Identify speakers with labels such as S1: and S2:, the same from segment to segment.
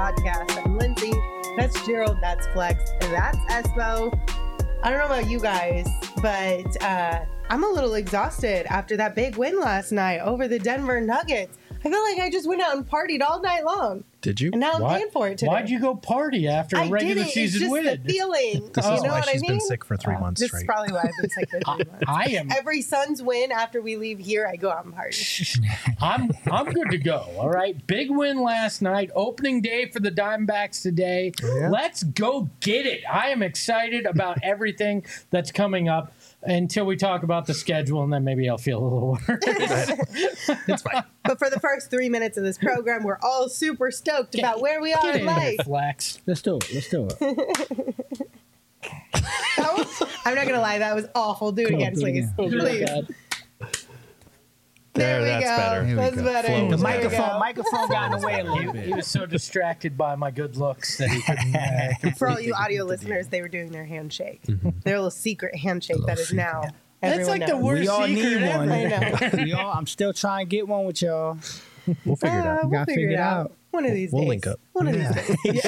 S1: podcast. I'm Lindsay. That's Gerald. That's Flex. And that's Espo. I don't know about you guys, but I'm a little exhausted after that big win last night over the Denver Nuggets. I feel like I just went out and partied all night long.
S2: Did you?
S1: And now I'm paying for it today.
S3: Why'd you go party after a regular season win?
S1: It's just the feeling.
S2: This is why she's been sick for 3 months
S1: This
S2: straight.
S1: is probably why I've been sick for 3 months.
S3: I am.
S1: Every Suns win after we leave here, I go out and party.
S3: I'm good to go. All right. Big win last night. Opening day for the Diamondbacks today.
S2: Yeah.
S3: Let's go get it. I am excited about everything that's coming up until we talk about the schedule, and then maybe I'll feel a little worse.
S2: It's fine.
S1: But for the first 3 minutes of this program, we're all super stoked about where we are
S3: Get
S1: in
S3: in
S1: life.
S3: there, Flex.
S4: Let's do it.
S1: I'm not going to lie, that was awful. Do it again,
S4: do it
S1: please.
S4: again.
S1: Please. There we
S2: That's
S1: go.
S2: better. Here we
S1: That's
S2: go.
S1: better.
S2: Flow
S1: There
S2: was
S1: we
S2: better.
S1: go.
S4: Microphone got in the way a little
S3: He
S4: bit.
S3: was so distracted by my good looks that he couldn't.
S1: For all you audio listeners, they were doing their handshake. Their little secret handshake that is now
S3: That's
S1: everyone
S3: like the
S1: knows.
S3: worst
S4: We all
S3: secret
S4: need
S3: ever.
S4: one.
S1: I know.
S4: I'm still trying to get one with y'all.
S2: We'll figure it out.
S1: We'll
S4: Gotta
S1: figure it
S4: figure it
S1: out.
S4: out.
S1: One of these
S2: We'll
S1: days.
S2: link up.
S1: One of these days.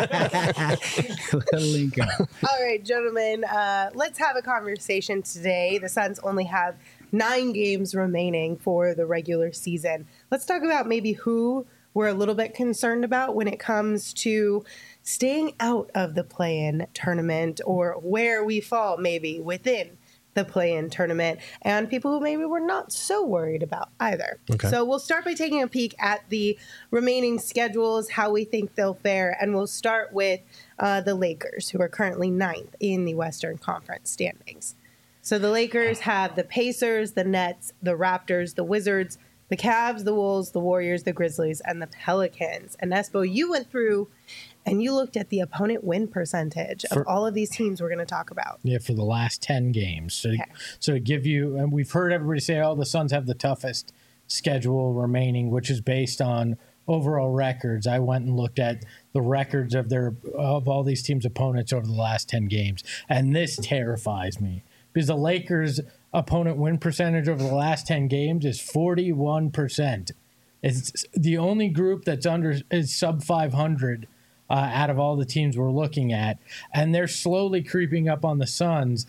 S4: Link up.
S1: All right, gentlemen, let's have a conversation today. The Suns only have 9 games remaining for the regular season. Let's talk about maybe who we're a little bit concerned about when it comes to staying out of the play-in tournament, or where we fall maybe within the play-in tournament, and people who maybe we're not so worried about either.
S2: Okay.
S1: So we'll start by taking a peek at the remaining schedules, how we think they'll fare, and we'll start with the Lakers, who are currently 9th in the Western Conference standings. So the Lakers have the Pacers, the Nets, the Raptors, the Wizards, the Cavs, the Wolves, the Warriors, the Grizzlies, and the Pelicans. And Espo, you went through and you looked at the opponent win percentage of all of these teams we're going to talk about.
S3: Yeah, for the last 10 games. So,
S1: Okay.
S3: so to give you, and we've heard everybody say, oh, the Suns have the toughest schedule remaining, which is based on overall records. I went and looked at the records of all these teams' opponents over the last 10 games, and this terrifies me because the Lakers' opponent win percentage over the last 10 games is 41%. It's the only group that's is sub 500 out of all the teams we're looking at, and they're slowly creeping up on the Suns.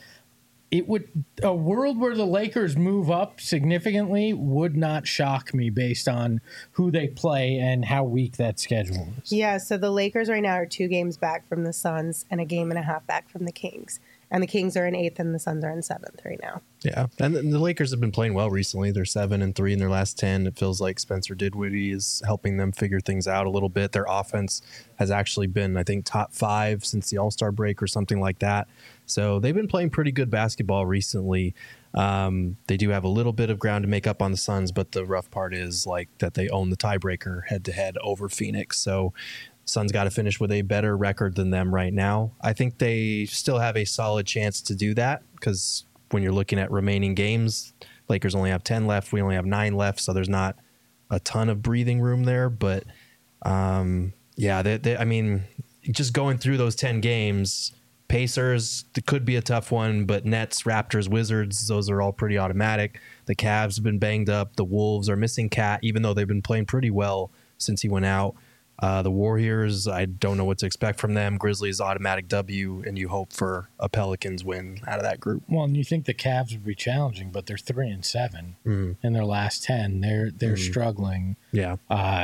S3: A world where the Lakers move up significantly would not shock me based on who they play and how weak that schedule is.
S1: Yeah, so the Lakers right now are 2 games back from the Suns and a game and a half back from the Kings. And the Kings are in 8th and the Suns are in 7th right now.
S2: Yeah, and the Lakers have been playing well recently. They're 7-3 in their last 10. It feels like Spencer Dinwiddie is helping them figure things out a little bit. Their offense has actually been, I think, top 5 since the All-Star break or something like that. So they've been playing pretty good basketball recently. They do have a little bit of ground to make up on the Suns, but the rough part is like that they own the tiebreaker head-to-head over Phoenix. So Suns got to finish with a better record than them right now. I think they still have a solid chance to do that because when you're looking at remaining games, Lakers only have 10 left. We only have 9 left, so there's not a ton of breathing room there. But yeah, I mean, just going through those 10 games, Pacers, it could be a tough one, but Nets, Raptors, Wizards, those are all pretty automatic. The Cavs have been banged up. The Wolves are missing Cat, even though they've been playing pretty well since he went out. The Warriors, I don't know what to expect from them. Grizzlies, automatic W, and you hope for a Pelicans win out of that group.
S3: Well, and you think the Cavs would be challenging, but they're 3-7 in their last 10. They're struggling.
S2: Yeah.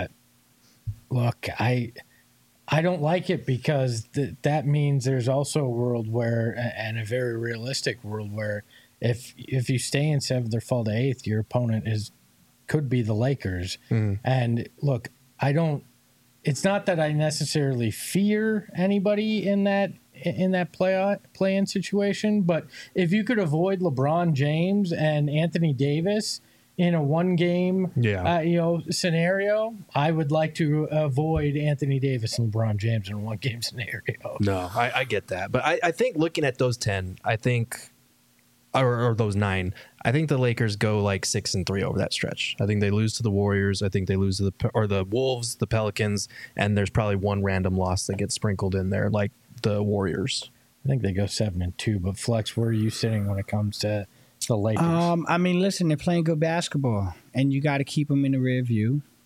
S3: Look, I don't like it because that means there's also a world where, and a very realistic world where, if you stay in 7th or fall to 8th, your opponent could be the Lakers. And look, it's not that I necessarily fear anybody in that play-in situation, but if you could avoid LeBron James and Anthony Davis in a one-game scenario, I would like to avoid Anthony Davis and LeBron James in a one-game scenario.
S2: No, I get that. But I think looking at those 10, I think, or those 9, I think the Lakers go like 6-3 over that stretch. I think they lose to the Warriors. I think they lose to the Wolves, the Pelicans, and there's probably one random loss that gets sprinkled in there, like the Warriors.
S3: I think they go 7-2. But Flex, where are you sitting when it comes to the Lakers?
S4: I mean, listen, they're playing good basketball, and you got to keep them in the rear view.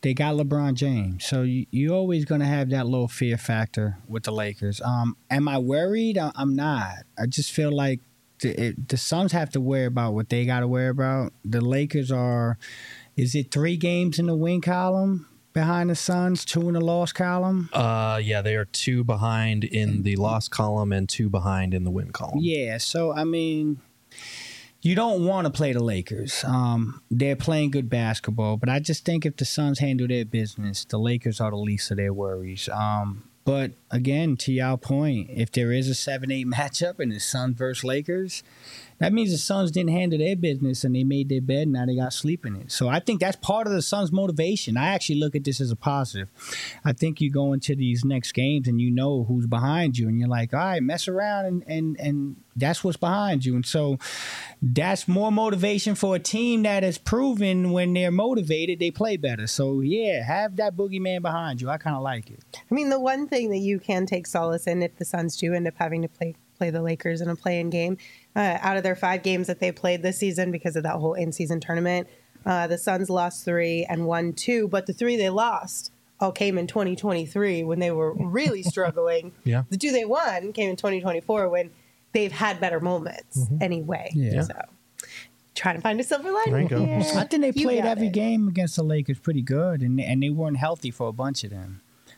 S4: they got LeBron James. So you're always going to have that little fear factor with the Lakers. Am I worried? I'm not. I just feel like the Suns have to worry about what they got to worry about. The Lakers are, is it 3 games in the win column behind the Suns, 2 in the loss column?
S2: Yeah, they are 2 behind in the loss column and 2 behind in the win column.
S4: Yeah, so I mean, you don't want to play the Lakers. They're playing good basketball, but I just think if the Suns handle their business, the Lakers are the least of their worries. But again, to your point, if there is a 7-8 matchup and it's Suns versus Lakers, that means the Suns didn't handle their business and they made their bed and now they got sleep in it. So I think that's part of the Suns' motivation. I actually look at this as a positive. I think you go into these next games and you know who's behind you and you're like, all right, mess around and that's what's behind you. And so that's more motivation for a team that has proven when they're motivated, they play better. So yeah, have that boogeyman behind you. I kind of like it.
S1: I mean, the one thing that you can take solace in if the Suns do end up having to play the Lakers in a play-in game, out of their 5 games that they played this season because of that whole in-season tournament, the Suns lost 3 and won 2, but the 3 they lost all came in 2023 when they were really struggling.
S2: Yeah.
S1: The 2 they won came in 2024 when they've had better moments anyway.
S4: Yeah.
S1: So trying to find a silver lining
S2: There you go.
S1: here.
S4: I think they
S1: You
S4: played
S1: got
S4: every
S1: it.
S4: game against the Lakers pretty good, and they weren't healthy for a bunch of them.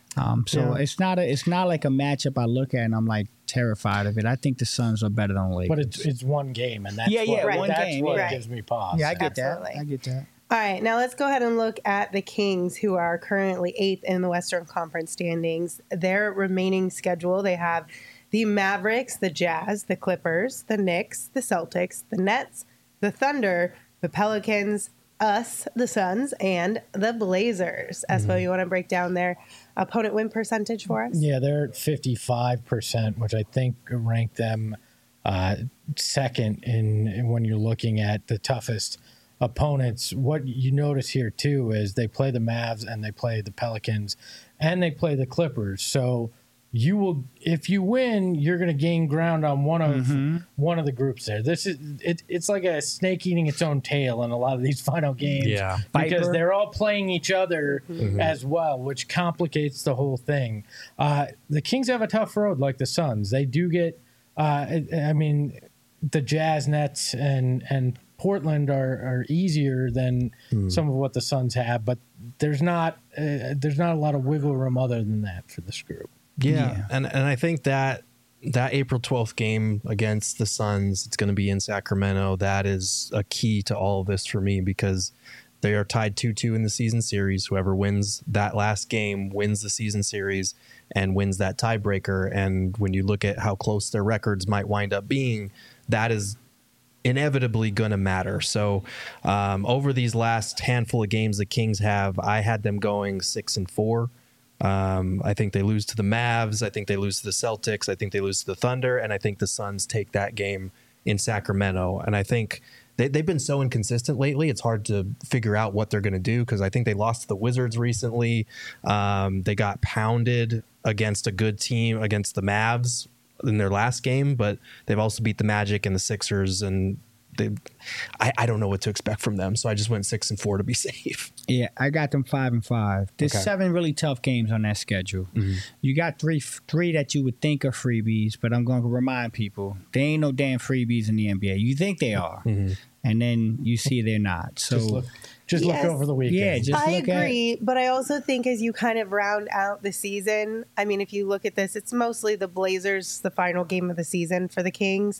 S4: So it's not like a matchup I look at and I'm like terrified of it. I think the Suns are better than the Lakers.
S3: But it's one game, and that's
S1: one
S3: that's
S4: game,
S3: what
S1: yeah.
S3: gives me pause.
S4: yeah, I get
S1: Absolutely.
S4: that. I get that.
S1: All right, now let's go ahead and look at the Kings, who are currently 8th in the Western Conference standings. Their remaining schedule, they have the Mavericks, the Jazz, the Clippers, the Knicks, the Celtics, the Nets, the Thunder, the Pelicans, us, the Suns, and the Blazers. Espo, you want to break down their opponent win percentage for us?
S3: Yeah, they're at 55%, which I think ranked them second in when you're looking at the toughest opponents. What you notice here too is they play the Mavs and they play the Pelicans and they play the Clippers. So you will, if you win, you're going to gain ground on one of the groups there. This is it's like a snake eating its own tail in a lot of these final games.
S2: Yeah.
S3: Because
S4: Viper.
S3: they're all playing each other as well, which complicates the whole thing. The Kings have a tough road, like the Suns. They do get, I mean, the Jazz, Nets, and Portland are easier than some of what the Suns have, but there's not a lot of wiggle room other than that for this group.
S2: Yeah. And I think that April 12th game against the Suns, it's going to be in Sacramento. That is a key to all of this for me because they are tied 2-2 in the season series. Whoever wins that last game wins the season series and wins that tiebreaker. And when you look at how close their records might wind up being, that is inevitably going to matter. So over these last handful of games the Kings have, I had them going 6-4. I think they lose to the Mavs. I think they lose to the Celtics. I think they lose to the Thunder. And I think the Suns take that game in Sacramento. And I think they've been so inconsistent lately. It's hard to figure out what they're going to do because I think they lost to the Wizards recently. They got pounded against a good team, against the Mavs in their last game, but they've also beat the Magic and the Sixers, and I don't know what to expect from them. So I just went 6-4 to be safe.
S4: Yeah, I got them 5-5. There's
S2: Okay.
S4: 7 really tough games on that schedule. You got three that you would think are freebies, but I'm going to remind people they ain't no damn freebies in the NBA. You think they are, and then you see they're not. So
S3: Just look
S1: Yes.
S3: over the weekend.
S4: yeah, just
S1: I
S4: look at.
S1: agree, but I also think as you kind of round out the season, I mean, if you look at this, it's mostly the Blazers, the final game of the season for the Kings.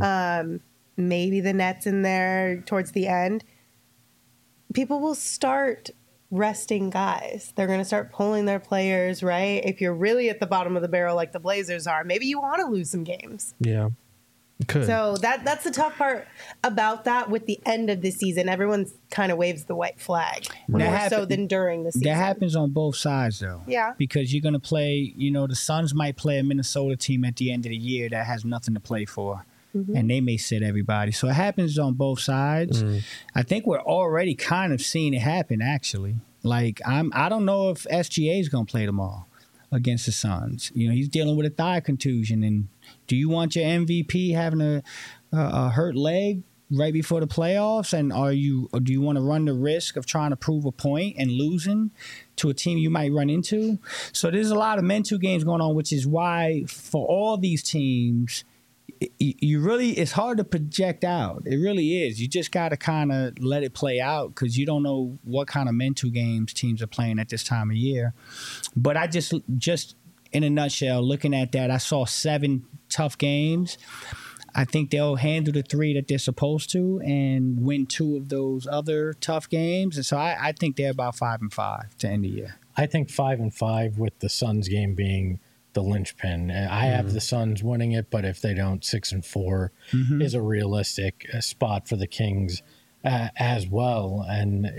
S1: Maybe the Nets in there towards the end. People will start resting guys. They're going to start pulling their players, right? If you're really at the bottom of the barrel like the Blazers are, maybe you want to lose some games.
S2: Yeah. Could.
S1: So that's the tough part about that with the end of the season. Everyone kind of waves the white flag more so than during the season.
S4: That happens on both sides, though.
S1: Yeah.
S4: Because you're going to play, the Suns might play a Minnesota team at the end of the year that has nothing to play for. And they may sit everybody. So it happens on both sides. I think we're already kind of seeing it happen, actually. Like, I don't know if SGA is going to play tomorrow against the Suns. He's dealing with a thigh contusion. And do you want your MVP having a hurt leg right before the playoffs? And or do you want to run the risk of trying to prove a point and losing to a team you might run into? So there's a lot of mental games going on, which is why for all these teams, it's hard to project out. It really is. You just got to kind of let it play out because you don't know what kind of mental games teams are playing at this time of year. But I just in a nutshell, looking at that, I saw 7 tough games. I think they'll handle the 3 that they're supposed to and win 2 of those other tough games. And so I think they're about 5-5 to end the year.
S3: I think 5-5 with the Suns game being the linchpin. I have the Suns winning it, but if they don't, 6-4 is a realistic spot for the Kings as well. And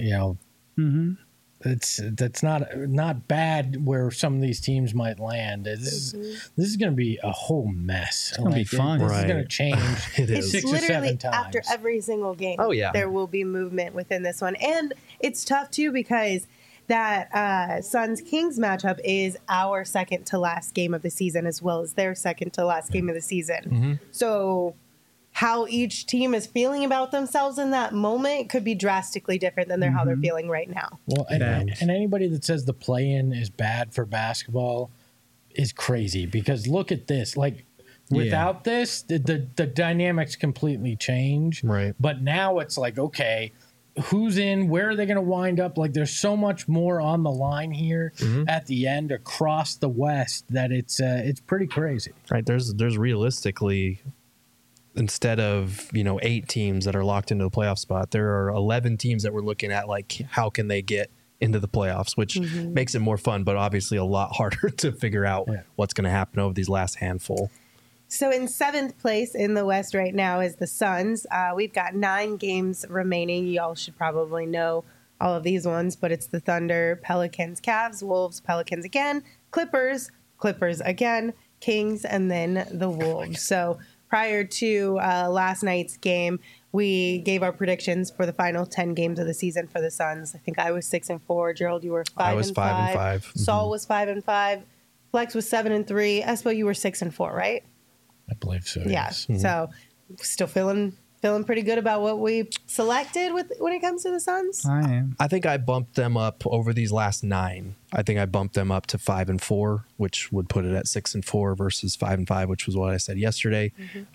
S3: that's not bad where some of these teams might land. This is going to be a whole mess.
S4: It's going to be fun.
S3: This is going to change
S2: It is.
S3: 6 or 7
S1: Literally
S3: times
S1: after every single game.
S2: Oh, yeah.
S1: There will be movement within this one, and it's tough too because that Suns-Kings matchup is our second to last game of the season as well as their second to last game of the season. So how each team is feeling about themselves in that moment could be drastically different than how they're feeling right now.
S3: Well, and anybody that says the play-in is bad for basketball is crazy because look at this. Like, without this, the dynamics completely change.
S2: Right.
S3: But now it's like, okay, who's in? Where are they going to wind up? Like, there's so much more on the line here at the end across the West that it's pretty crazy.
S2: Right. There's realistically, instead of 8 teams that are locked into the playoff spot, there are 11 teams that we're looking at. Like, how can they get into the playoffs? Which makes it more fun, but obviously a lot harder to figure out what's going to happen over these last handful.
S1: So in 7th place in the West right now is the Suns. We've got 9 games remaining. Y'all should probably know all of these ones, but it's the Thunder, Pelicans, Cavs, Wolves, Pelicans again, Clippers again, Kings, and then the Wolves. So prior to last night's game, we gave our predictions for the final 10 games of the season for the Suns. I think I was 6-4. Gerald, you were 5-5.
S2: I was 5-5.
S1: Saul was 5-5. Flex was 7-3. Espo, you were 6-4, right?
S3: I believe so.
S1: Yeah.
S3: Yes.
S1: So still feeling pretty good about what we selected when it comes to the Suns.
S4: I am.
S2: I think I bumped them up over these last 9. I think I bumped them up to 5-4, which would put it at 6-4 versus 5-5, which was what I said yesterday.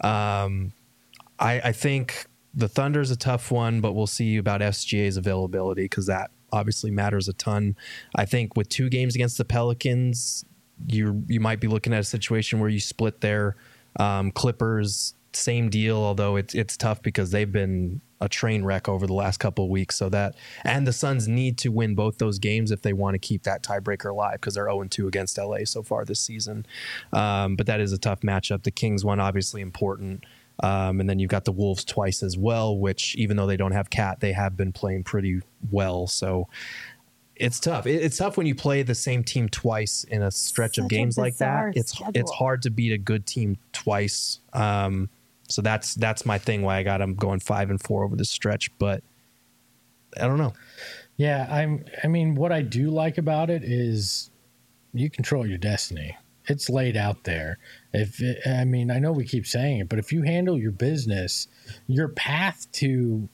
S2: I think the Thunder is a tough one, but we'll see about SGA's availability because that obviously matters a ton. I think with 2 games against the Pelicans, you might be looking at a situation where you split there. Clippers, same deal, although it's tough because they've been a train wreck over the last couple of weeks. So that, and the Suns need to win both those games if they want to keep that tiebreaker alive because they're 0-2 against LA so far this season. But that is a tough matchup. The Kings one, obviously important. And then you've got the Wolves twice as well, which even though they don't have Cat, they have been playing pretty well. So it's tough. It's tough when you play the same team twice in a stretch of games like that. It's hard to beat a good team twice. So that's my thing. Why I got them going 5-4 over this stretch. But I don't know.
S3: Yeah, I mean, what I do like about it is you control your destiny. It's laid out there. I know we keep saying it, but if you handle your business, your path to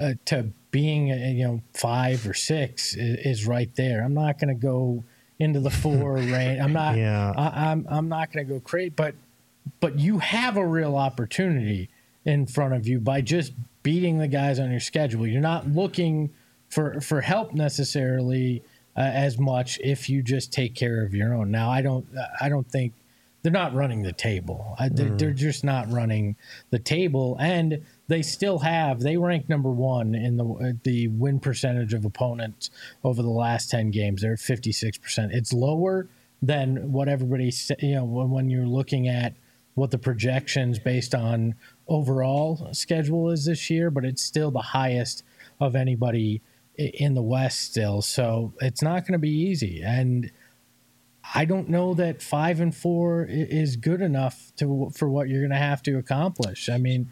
S3: being 5 or 6 is right there. I'm not going to go into the 4 range. I'm not. Yeah. I'm not going to go crazy. But you have a real opportunity in front of you by just beating the guys on your schedule. You're not looking for help necessarily as much if you just take care of your own. Now, I don't think they're not running the table. They're just not running the table, and they rank number 1 in the win percentage of opponents over the last 10 games. They're at 56%. It's lower than what everybody when you're looking at what the projections based on overall schedule is this year, but it's still the highest of anybody in the West still. So it's not going to be easy. And I don't know that 5-4 is good enough for what you're going to have to accomplish. I mean,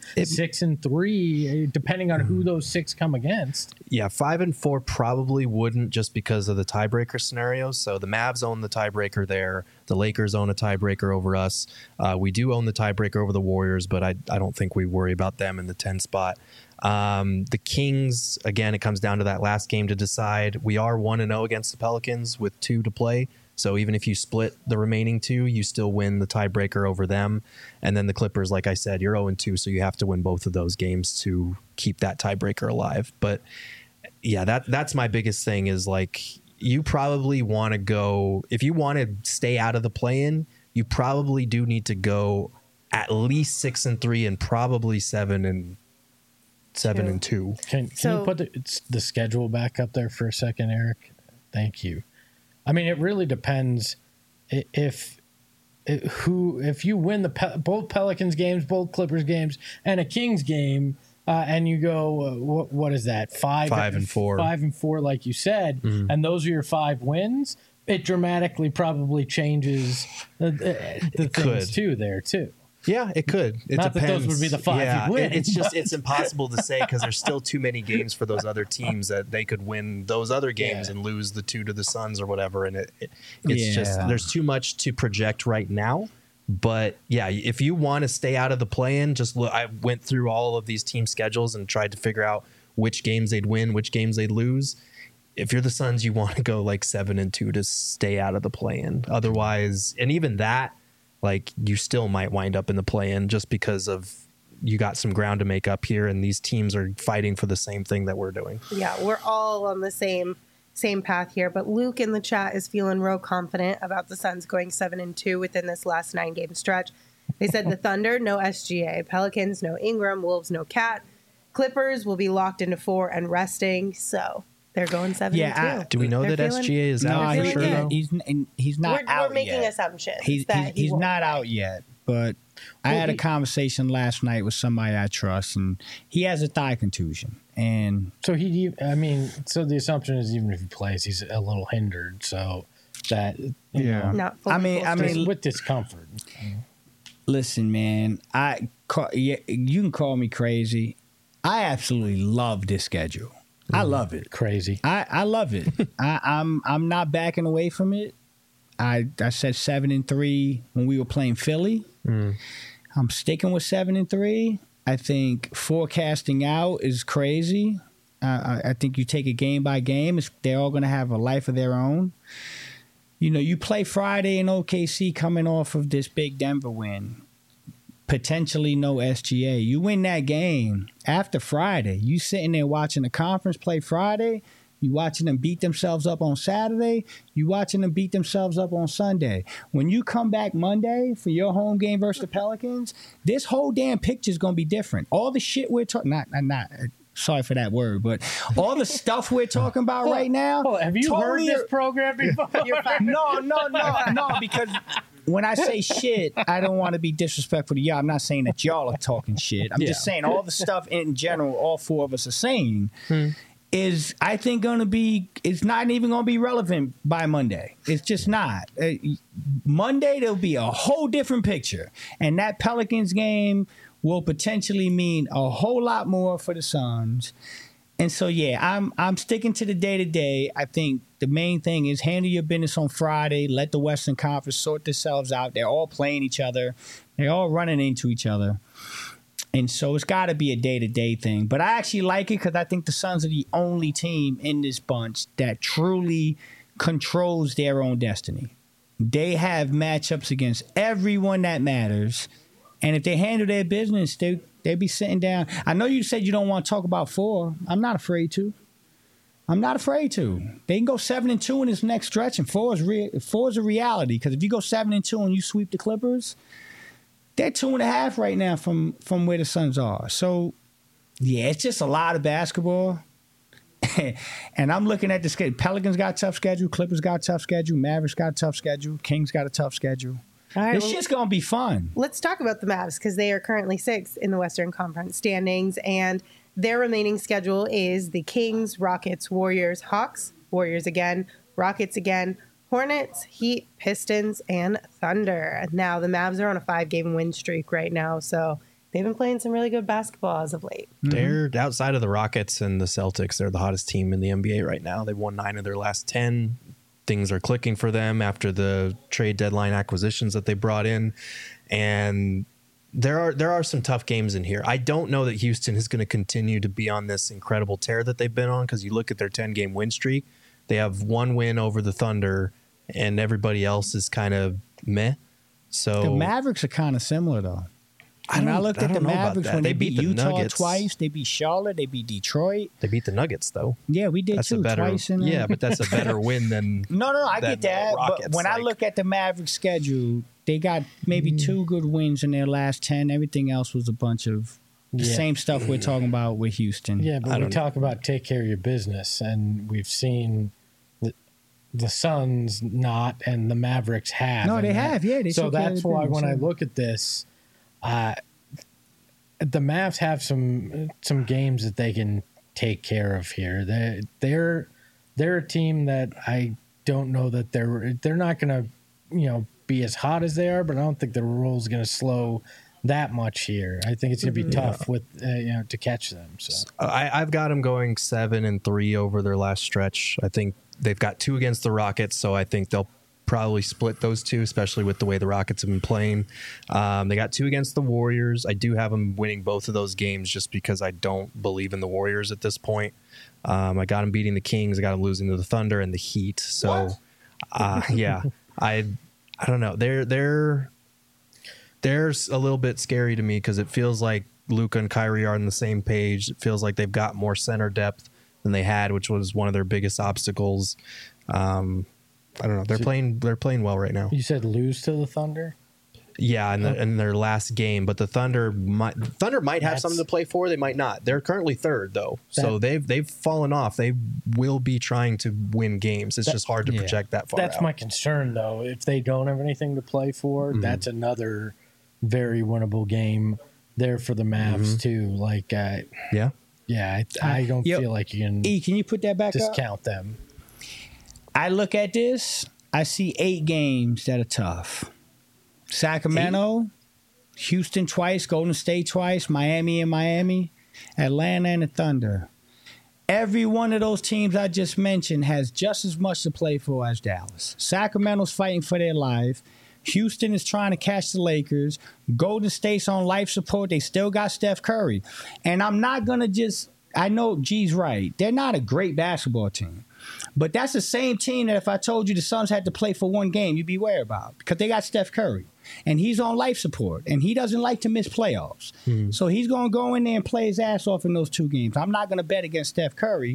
S3: 6-3, depending on who those 6 come against.
S2: Yeah, 5-4 probably wouldn't just because of the tiebreaker scenarios. So the Mavs own the tiebreaker there. The Lakers own a tiebreaker over us. We do own the tiebreaker over the Warriors, but I don't think we worry about them in the 10 spot. The Kings, again, it comes down to that last game to decide. We are 1-0 against the Pelicans with 2 to play. So even if you split the remaining 2, you still win the tiebreaker over them. And then the Clippers, like I said, you're 0-2, so you have to win both of those games to keep that tiebreaker alive. But yeah, that's my biggest thing is like you probably want to go, if you want to stay out of the play-in, you probably do need to go at least 6-3 and probably 7-2.
S3: Can you put the schedule back up there for a second, Eric? Thank you. I mean, it really depends if you win both Pelicans games, both Clippers games, and a Kings game, and you go what is that 5 and 4, 5 and 4, like you said, and those are your 5 wins. It dramatically probably changes the things too there too.
S2: Yeah, it could. It
S3: Not
S2: depends.
S3: that those would be the 5 you win.
S2: It's impossible to say because there's still too many games for those other teams that they could win those other games and lose the 2 to the Suns or whatever. And it's just there's too much to project right now. But yeah, if you want to stay out of the play-in, just look. I went through all of these team schedules and tried to figure out which games they'd win, which games they'd lose. If you're the Suns, you want to go like 7-2 to stay out of the play-in. Otherwise, and even that, like you still might wind up in the play-in just because of you got some ground to make up here, and these teams are fighting for the same thing that we're doing.
S1: Yeah, we're all on the same path here. But Luke in the chat is feeling real confident about the Suns going 7-2 within this last 9-game stretch. They said the Thunder, no SGA. Pelicans, no Ingram. Wolves, no Cat. Clippers will be locked into 4 and resting. So they're going 7-2.
S2: Do we know that SGA is out for sure?
S4: No, he's not out yet.
S1: We're making assumptions.
S4: He's not out yet, but I had a conversation last night with somebody I trust, and he has a thigh contusion. And
S3: so the assumption is even if he plays, he's a little hindered. So that
S1: not fully
S3: with discomfort.
S4: Listen, man, you can call me crazy. I absolutely love this schedule. I love it.
S3: Crazy.
S4: I love it. I'm not backing away from it. I said 7-3 when we were playing Philly. I'm sticking with 7-3. I think forecasting out is crazy. I think you take it game by game. They're all going to have a life of their own. You play Friday in OKC coming off of this big Denver win. Potentially no SGA. You win that game after Friday. You sitting there watching the conference play Friday. You watching them beat themselves up on Saturday. You watching them beat themselves up on Sunday. When you come back Monday for your home game versus the Pelicans, this whole damn picture is going to be different. All the shit we're talking, not sorry for that word, but all the stuff we're talking about right now.
S3: Have you heard this program before?
S4: No, because when I say shit, I don't want to be disrespectful to y'all. I'm not saying that y'all are talking shit. I'm just saying all the stuff in general, all 4 of us are saying is, I think, it's not even going to be relevant by Monday. It's just not. Monday, there'll be a whole different picture. And that Pelicans game will potentially mean a whole lot more for the Suns. And so, I'm sticking to the day-to-day. I think the main thing is handle your business on Friday. Let the Western Conference sort themselves out. They're all playing each other. They're all running into each other. And so it's got to be a day-to-day thing. But I actually like it because I think the Suns are the only team in this bunch that truly controls their own destiny. They have matchups against everyone that matters. And if they handle their business, they'd be sitting down. I know you said you don't want to talk about 4. I'm not afraid to. They can go 7-2 in this next stretch, and 4 is a reality. Because if you go 7-2 and you sweep the Clippers, they're 2.5 right now from where the Suns are. So, it's just a lot of basketball. And I'm looking at the schedule. Pelicans got a tough schedule. Clippers got a tough schedule. Mavericks got a tough schedule. Kings got a tough schedule.
S1: All right,
S4: this shit's going to be fun.
S1: Let's talk about the Mavs because they are currently 6th in the Western Conference standings, and their remaining schedule is the Kings, Rockets, Warriors, Hawks, Warriors again, Rockets again, Hornets, Heat, Pistons, and Thunder. Now, the Mavs are on a 5-game win streak right now, so they've been playing some really good basketball as of late.
S2: They're outside of the Rockets and the Celtics. They're the hottest team in the NBA right now. They've won 9 of their last 10. Things are clicking for them after the trade deadline acquisitions that they brought in. And there are some tough games in here. I don't know that Houston is going to continue to be on this incredible tear that they've been on, because you look at their 10-game win streak. They have one win over the Thunder, and everybody else is kind of meh. So
S4: The Mavericks are kind of similar, though. When I looked at the Mavericks, when they beat
S2: the
S4: Utah
S2: Nuggets
S4: twice, they beat Charlotte, they beat Detroit.
S2: They beat the Nuggets, though.
S4: Yeah, we did
S2: That's
S4: too,
S2: a better,
S4: twice.
S2: but that's a better win than
S4: No, I
S2: than
S4: get that.
S2: Rockets,
S4: But when I
S2: like-
S4: look at the Mavericks schedule, they got maybe 2 good wins in their last 10. Everything else was a bunch of the
S3: Yeah.
S4: same stuff we're talking about with Houston.
S3: Yeah,
S2: I
S3: but we
S2: don't-
S3: talk about take care of your business, and we've seen the Suns not, and the Mavericks have.
S4: No,
S3: and
S4: they have. Yeah, they
S3: so
S4: took care of
S3: that's
S4: the
S3: why
S4: business,
S3: when I
S4: yeah.
S3: look at this, the Mavs have some games that they can take care of here. They're a team that I don't know that they're not going to be as hot as they are, but I don't think the roll's going to slow that much here. I think it's going to be tough with to catch them. So
S2: I've got them going 7-3 over their last stretch. I think they've got 2 against the Rockets, so I think they'll probably split those 2, especially with the way the Rockets have been playing. They got 2 against the Warriors. I do have them winning both of those games just because I don't believe in the Warriors at this point. I got them beating the Kings. I got them losing to the Thunder and the Heat. So, yeah, I don't know. They're a little bit scary to me because it feels like Luka and Kyrie are on the same page. It feels like they've got more center depth than they had, which was one of their biggest obstacles. I don't know. They're playing well right now.
S3: you said lose to the Thunder.
S2: Yeah, in their last game, but the Thunder might have
S3: That's-
S2: something to play for. They might not. They're currently 3rd though, so they've fallen off. They will be trying to win games. It's just hard to project that far.
S3: That's
S2: out.
S3: my concern, though. If they don't have anything to play for, that's another very winnable game there for the Mavs too. Like,
S2: Yeah.
S3: I don't
S4: Yo,
S3: feel like you can
S4: Can you put that back up?
S3: discount them.
S4: I look at this, I see 8 games that are tough. Sacramento, Houston twice, Golden State twice, Miami, Atlanta, and the Thunder. Every one of those teams I just mentioned has just as much to play for as Dallas. Sacramento's fighting for their life. Houston is trying to catch the Lakers. Golden State's on life support. They still got Steph Curry. And I'm not going to just, I know G's right. They're not a great basketball team. But that's the same team that if I told you the Suns had to play for one game, you'd be worried about because they got Steph Curry. And he's on life support, and he doesn't like to miss playoffs. So he's going to go in there and play his ass off in those 2 games. I'm not going to bet against Steph Curry.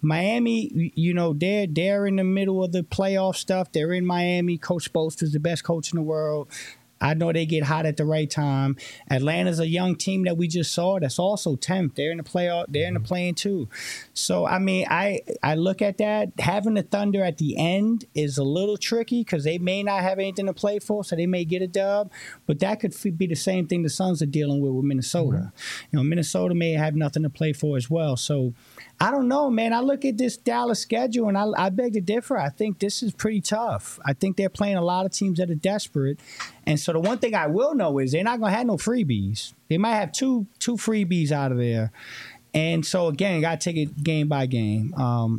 S4: Miami, they're in the middle of the playoff stuff. They're in Miami. Coach Spoelstra's the best coach in the world. I know they get hot at the right time. Atlanta's a young team that we just saw that's also 10th. They're in the playoff. They're in the play-in too. So, I mean, I look at that. Having the Thunder at the end is a little tricky because they may not have anything to play for, so they may get a dub. But that could be the same thing the Suns are dealing with Minnesota. Minnesota may have nothing to play for as well. So, I don't know, man. I look at this Dallas schedule, and I beg to differ. I think this is pretty tough. I think they're playing a lot of teams that are desperate. And so the one thing I will know is they're not going to have no freebies. They might have two freebies out of there. And so, again, you got to take it game by game.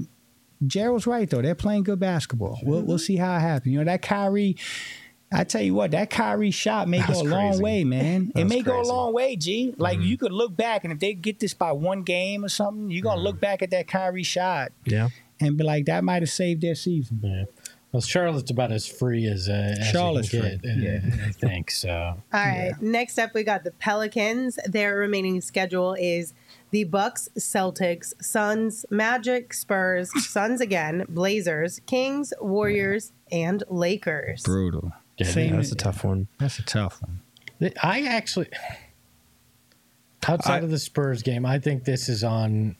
S4: Gerald's right, though. They're playing good basketball. We'll see how it happens. That Kyrie, I tell you what, that Kyrie shot may go a long way, man. It may go a long way, G. Like, you could look back, and if they get this by one game or something, you're going to look back at that Kyrie shot and be like, that might have saved their season.
S3: Yeah. Well, Charlotte's about as free as
S4: Charlotte's
S3: you can
S4: free.
S3: get, I think so.
S1: All right. Next up, we got the Pelicans. Their remaining schedule is the Bucks, Celtics, Suns, Magic, Spurs, Suns again, Blazers, Kings, Warriors, and Lakers.
S4: Brutal.
S3: Yeah,
S2: That's a tough one.
S4: That's a tough one.
S3: I actually, outside of the Spurs game, I think this is on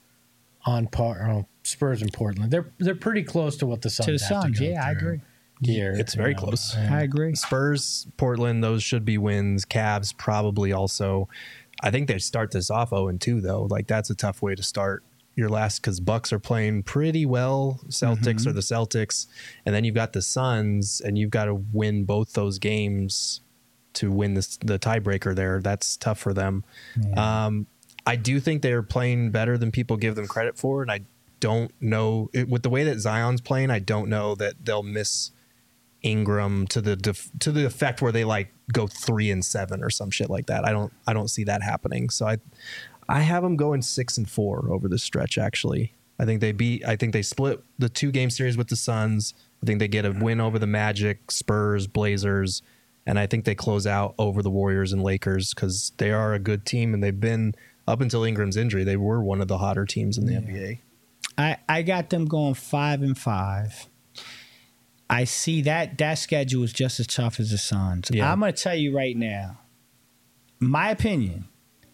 S3: par. Spurs and Portland, they're pretty close to what the Suns
S4: To the
S3: have
S4: Suns,
S3: to go
S4: yeah, I
S3: through
S4: agree.
S3: Here,
S2: It's very close.
S4: I agree.
S2: Spurs, Portland, those should be wins. Cavs probably also. I think they start this off 0-2 though. Like that's a tough way to start your last because Bucks are playing pretty well. Celtics are the Celtics, and then you've got the Suns, and you've got to win both those games to win the tiebreaker there. That's tough for them.
S4: Yeah.
S2: I do think they're playing better than people give them credit for, and I don't know with the way that Zion's playing. I don't know that they'll miss Ingram to the effect where they like go 3-7 or some shit like that. I don't see that happening. So I have them going 6-4 over this stretch. Actually, I think they split the 2-game series with the Suns. I think they get a win over the Magic, Spurs, Blazers, and I think they close out over the Warriors and Lakers because they are a good team, and they've been, up until Ingram's injury, they were one of the hotter teams in the NBA.
S4: I got them going 5-5. I see that schedule is just as tough as the Suns.
S2: Yeah.
S4: I'm going to tell you right now, my opinion,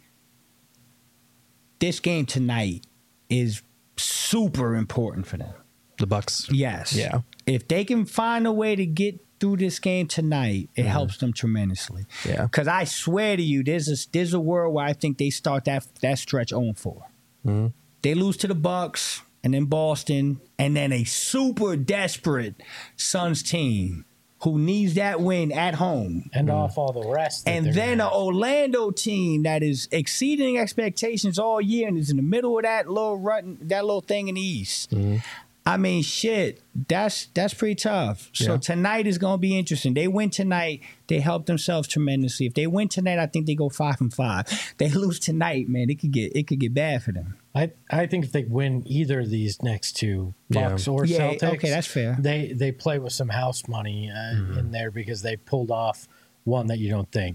S4: this game tonight is super important for them.
S2: The Bucks.
S4: Yes.
S2: Yeah.
S4: If they can find a way to get through this game tonight, it helps them tremendously.
S2: Yeah.
S4: Because I swear to you, there's a world where I think they start that stretch 0-4.
S2: Mm-hmm.
S4: They lose to the Bucks and then Boston, and then a super desperate Suns team who needs that win at home.
S3: And off all the rest.
S4: And then an Orlando team that is exceeding expectations all year and is in the middle of that little thing in the East.
S2: Mm-hmm.
S4: I mean, shit, that's pretty tough. So tonight is going to be interesting. They win tonight, they help themselves tremendously. If they win tonight, I think they go 5-5. They lose tonight, man, it could get bad for them.
S3: I think if they win either of these next two, Bucks or Celtics,
S4: okay, that's fair.
S3: They play with some house money in there because they pulled off one that you don't think.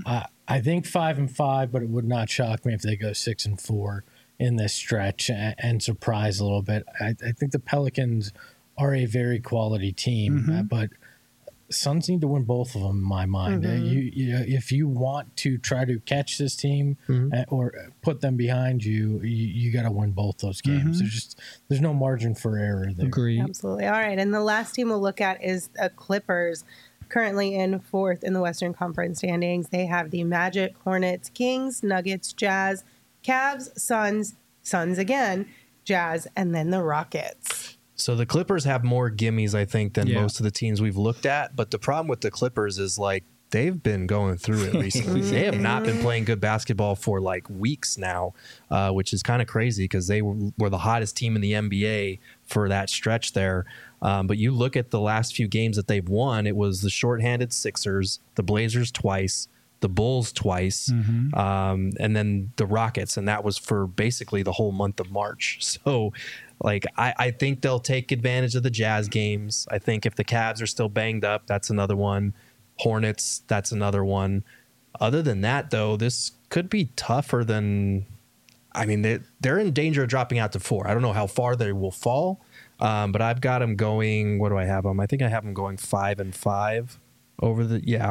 S3: I think 5-5, but it would not shock me if they go 6-4 in this stretch and surprise a little bit. I think the Pelicans are a very quality team, but Suns need to win both of them in my mind. If you want to try to catch this team or put them behind you, you got to win both those games. There's no margin for error there.
S4: Agreed.
S1: Absolutely. All right. And the last team we'll look at is the Clippers, currently in 4th in the Western Conference standings. They have the Magic, Hornets, Kings, Nuggets, Jazz, Cavs, Suns again, Jazz, and then the Rockets.
S2: So the Clippers have more gimmies, I think, than most of the teams we've looked at. But the problem with the Clippers is, like, they've been going through it recently. They have not been playing good basketball for, like, weeks now, which is kind of crazy because they were the hottest team in the NBA for that stretch there. But you look at the last few games that they've won, it was the shorthanded Sixers, the Blazers twice, the Bulls twice, and then the Rockets, and that was for basically the whole month of March. So, like, I think they'll take advantage of the Jazz games. I think if the Cavs are still banged up, that's another one. Hornets, that's another one. Other than that, though, this could be tougher than... I mean, they're in danger of dropping out to 4. I don't know how far they will fall, but I've got them going... What do I have them? I think I have them going 5-5 over the... Yeah,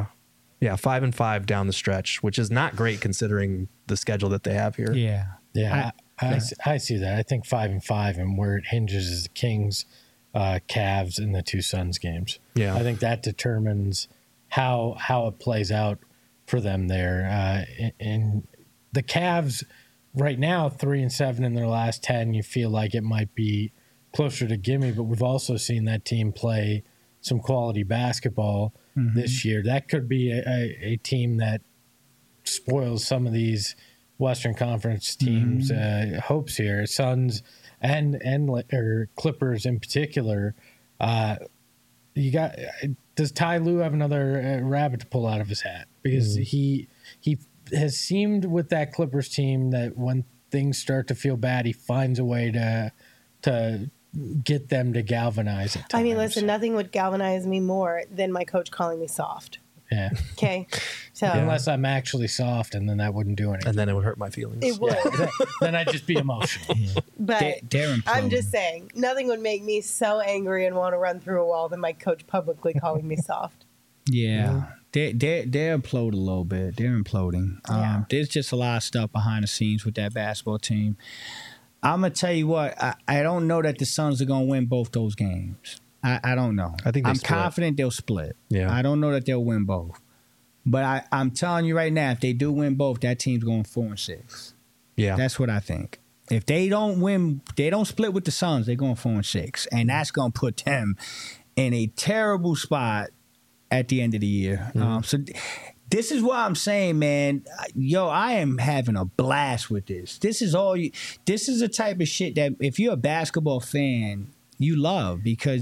S2: 5-5 down the stretch, which is not great considering the schedule that they have here.
S3: Yeah, I see that. I think 5-5, and where it hinges is the Kings, Cavs, and the two Suns games.
S2: Yeah,
S3: I think that determines how it plays out for them there. And the Cavs right now 3-7 in their last 10. You feel like it might be closer to gimme, but we've also seen that team play some quality basketball this year. That could be a team that spoils some of these Western Conference teams' hopes here. Suns and Clippers in particular. Does Ty Lue have another rabbit to pull out of his hat? Because he has seemed with that Clippers team that when things start to feel bad, he finds a way to get them to galvanize at times.
S1: I mean, listen, nothing would galvanize me more than my coach calling me soft.
S3: Yeah.
S1: Okay. So
S3: unless I'm actually soft, and then that wouldn't do anything.
S2: And then it would hurt my feelings.
S1: it would.
S3: Then I'd just be emotional.
S1: But
S4: They're
S1: I'm just saying, nothing would make me so angry and want to run through a wall than my coach publicly calling me soft.
S4: Yeah. They're imploding a little bit. They're imploding.
S1: Yeah.
S4: There's just a lot of stuff behind the scenes with that basketball team. I'm going to tell you what, I don't know that the Suns are going to win both those games. I don't know.
S2: I think
S4: I'm
S2: split.
S4: confident they'll split.
S2: Yeah.
S4: I don't know that they'll win both. But I'm telling you right now, if they do win both, that team's going 4-6.
S2: Yeah.
S4: That's what I think. If they don't win, they don't split with the Suns, they're going 4-6. And that's going to put them in a terrible spot at the end of the year. So this is what I'm saying, man. Yo, I am having a blast with this. This is the type of shit that if you're a basketball fan, you love, because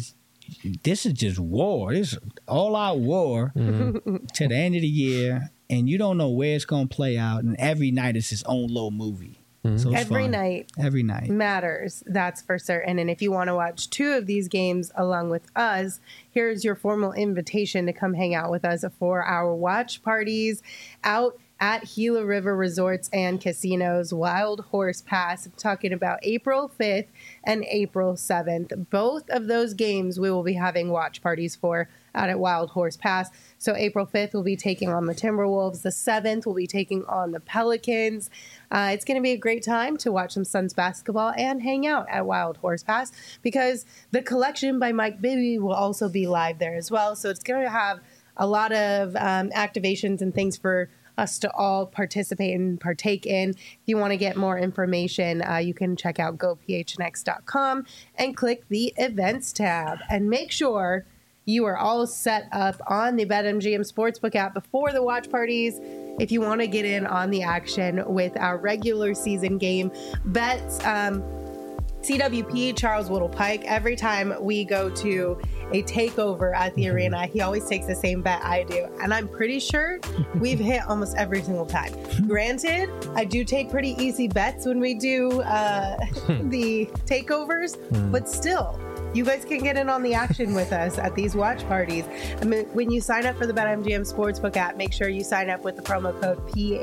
S4: this is just war. This is all-out war to the end of the year, and you don't know where it's going to play out, and every night is its own little movie. So it's
S1: Every
S4: fun.
S1: night
S4: Every night.
S1: matters, that's for certain. And if you want to watch 2 of these games along with us, here's your formal invitation to come hang out with us for our watch parties out at Gila River Resorts and Casinos, Wild Horse Pass. I'm talking about April 5th and April 7th. Both of those games we will be having watch parties for out at Wild Horse Pass. So April 5th, we'll be taking on the Timberwolves. The 7th, we'll be taking on the Pelicans. It's going to be a great time to watch some Suns basketball and hang out at Wild Horse Pass because the Collection by Mike Bibby will also be live there as well. So it's going to have a lot of activations and things for us to all participate and partake in. If you want to get more information, you can check out gophnx.com and click the events tab. And make sure you are all set up on the BetMGM Sportsbook app before the watch parties if you want to get in on the action with our regular season game bets. CWP, Charles Whittle Pike, every time we go to a takeover at the arena, he always takes the same bet I do. And I'm pretty sure we've hit almost every single time. Granted, I do take pretty easy bets when we do the takeovers, but still, you guys can get in on the action with us at these watch parties. I mean, when you sign up for the BetMGM Sportsbook app, make sure you sign up with the promo code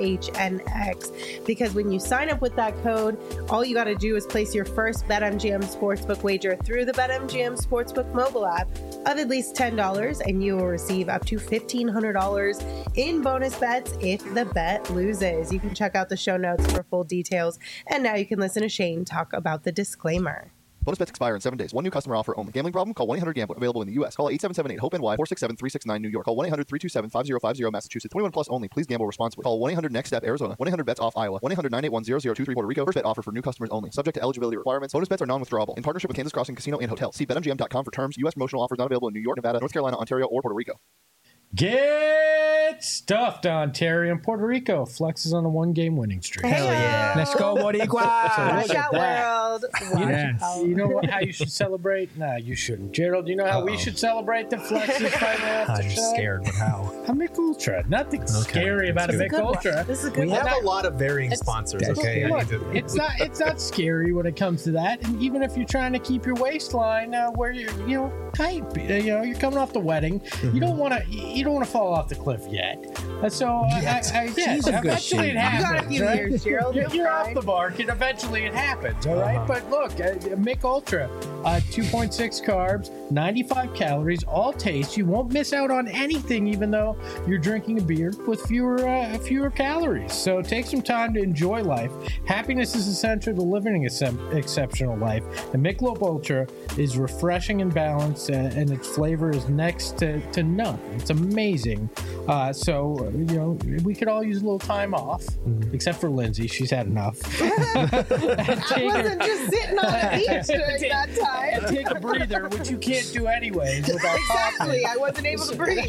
S1: PHNX, because when you sign up with that code, all you got to do is place your first BetMGM Sportsbook wager through the BetMGM Sportsbook mobile app of at least $10, and you will receive up to $1,500 in bonus bets if the bet loses. You can check out the show notes for full details. And now you can listen to Shane talk about the disclaimer.
S5: Bonus bets expire in 7 days. One new customer offer only. Gambling problem? Call 1-800-GAMBLER. Available in the U.S. Call 877-8-HOPE-NY 467-369 New York. Call 1-800-327-5050 Massachusetts. 21 plus only. Please gamble responsibly. Call 1-800-NEXT-STEP Arizona. 1-800-BETS-OFF Iowa. 1-800-981-0023 Puerto Rico. First bet offer for new customers only. Subject to eligibility requirements. Bonus bets are non-withdrawable. In partnership with Kansas Crossing Casino and Hotel. See BetMGM.com for terms. U.S. promotional offers not available in New York, Nevada, North Carolina, Ontario, or Puerto Rico.
S3: Get stuffed, Ontario and Puerto Rico. Flex is on a 1-game winning streak.
S1: Hell yeah.
S4: Let's go, Boricua.
S1: Watch
S3: at
S1: out,
S3: that.
S1: world. Watch out.
S3: You know what, how you should celebrate? Nah, you shouldn't. Gerald, you know how we should celebrate the Flex is finally off the
S2: I'm
S3: show?
S2: scared, but how?
S3: A Mick Ultra. Nothing scary about a
S2: That's
S3: Mick
S1: Good one.
S3: Ultra.
S1: This is a good
S2: We
S1: one.
S2: have a lot of varying sponsors, okay?
S3: Look, it's not scary when it comes to that. And even if you're trying to keep your waistline where you're tight, you're coming off the wedding, you don't want to fall off the cliff yet. So
S4: She's a good
S3: eventually
S4: shape.
S3: it happens.
S1: You got a few
S3: right?
S1: years, Gerald.
S3: You're off the mark, and eventually it happens. All right, but look, Mick Ultra, 2.6 carbs, 95 calories, all taste. You won't miss out on anything, even though you're drinking a beer with fewer calories. So take some time to enjoy life. Happiness is essential to living an exceptional life. And Michelob Ultra is refreshing and balanced, and its flavor is next to none. It's amazing. So we could all use a little time off, except for Lindsay. She's had enough.
S1: I wasn't just sitting on a beach during that time.
S3: And take a breather, which you can't do anyways without
S1: Exactly. I wasn't able to breathe.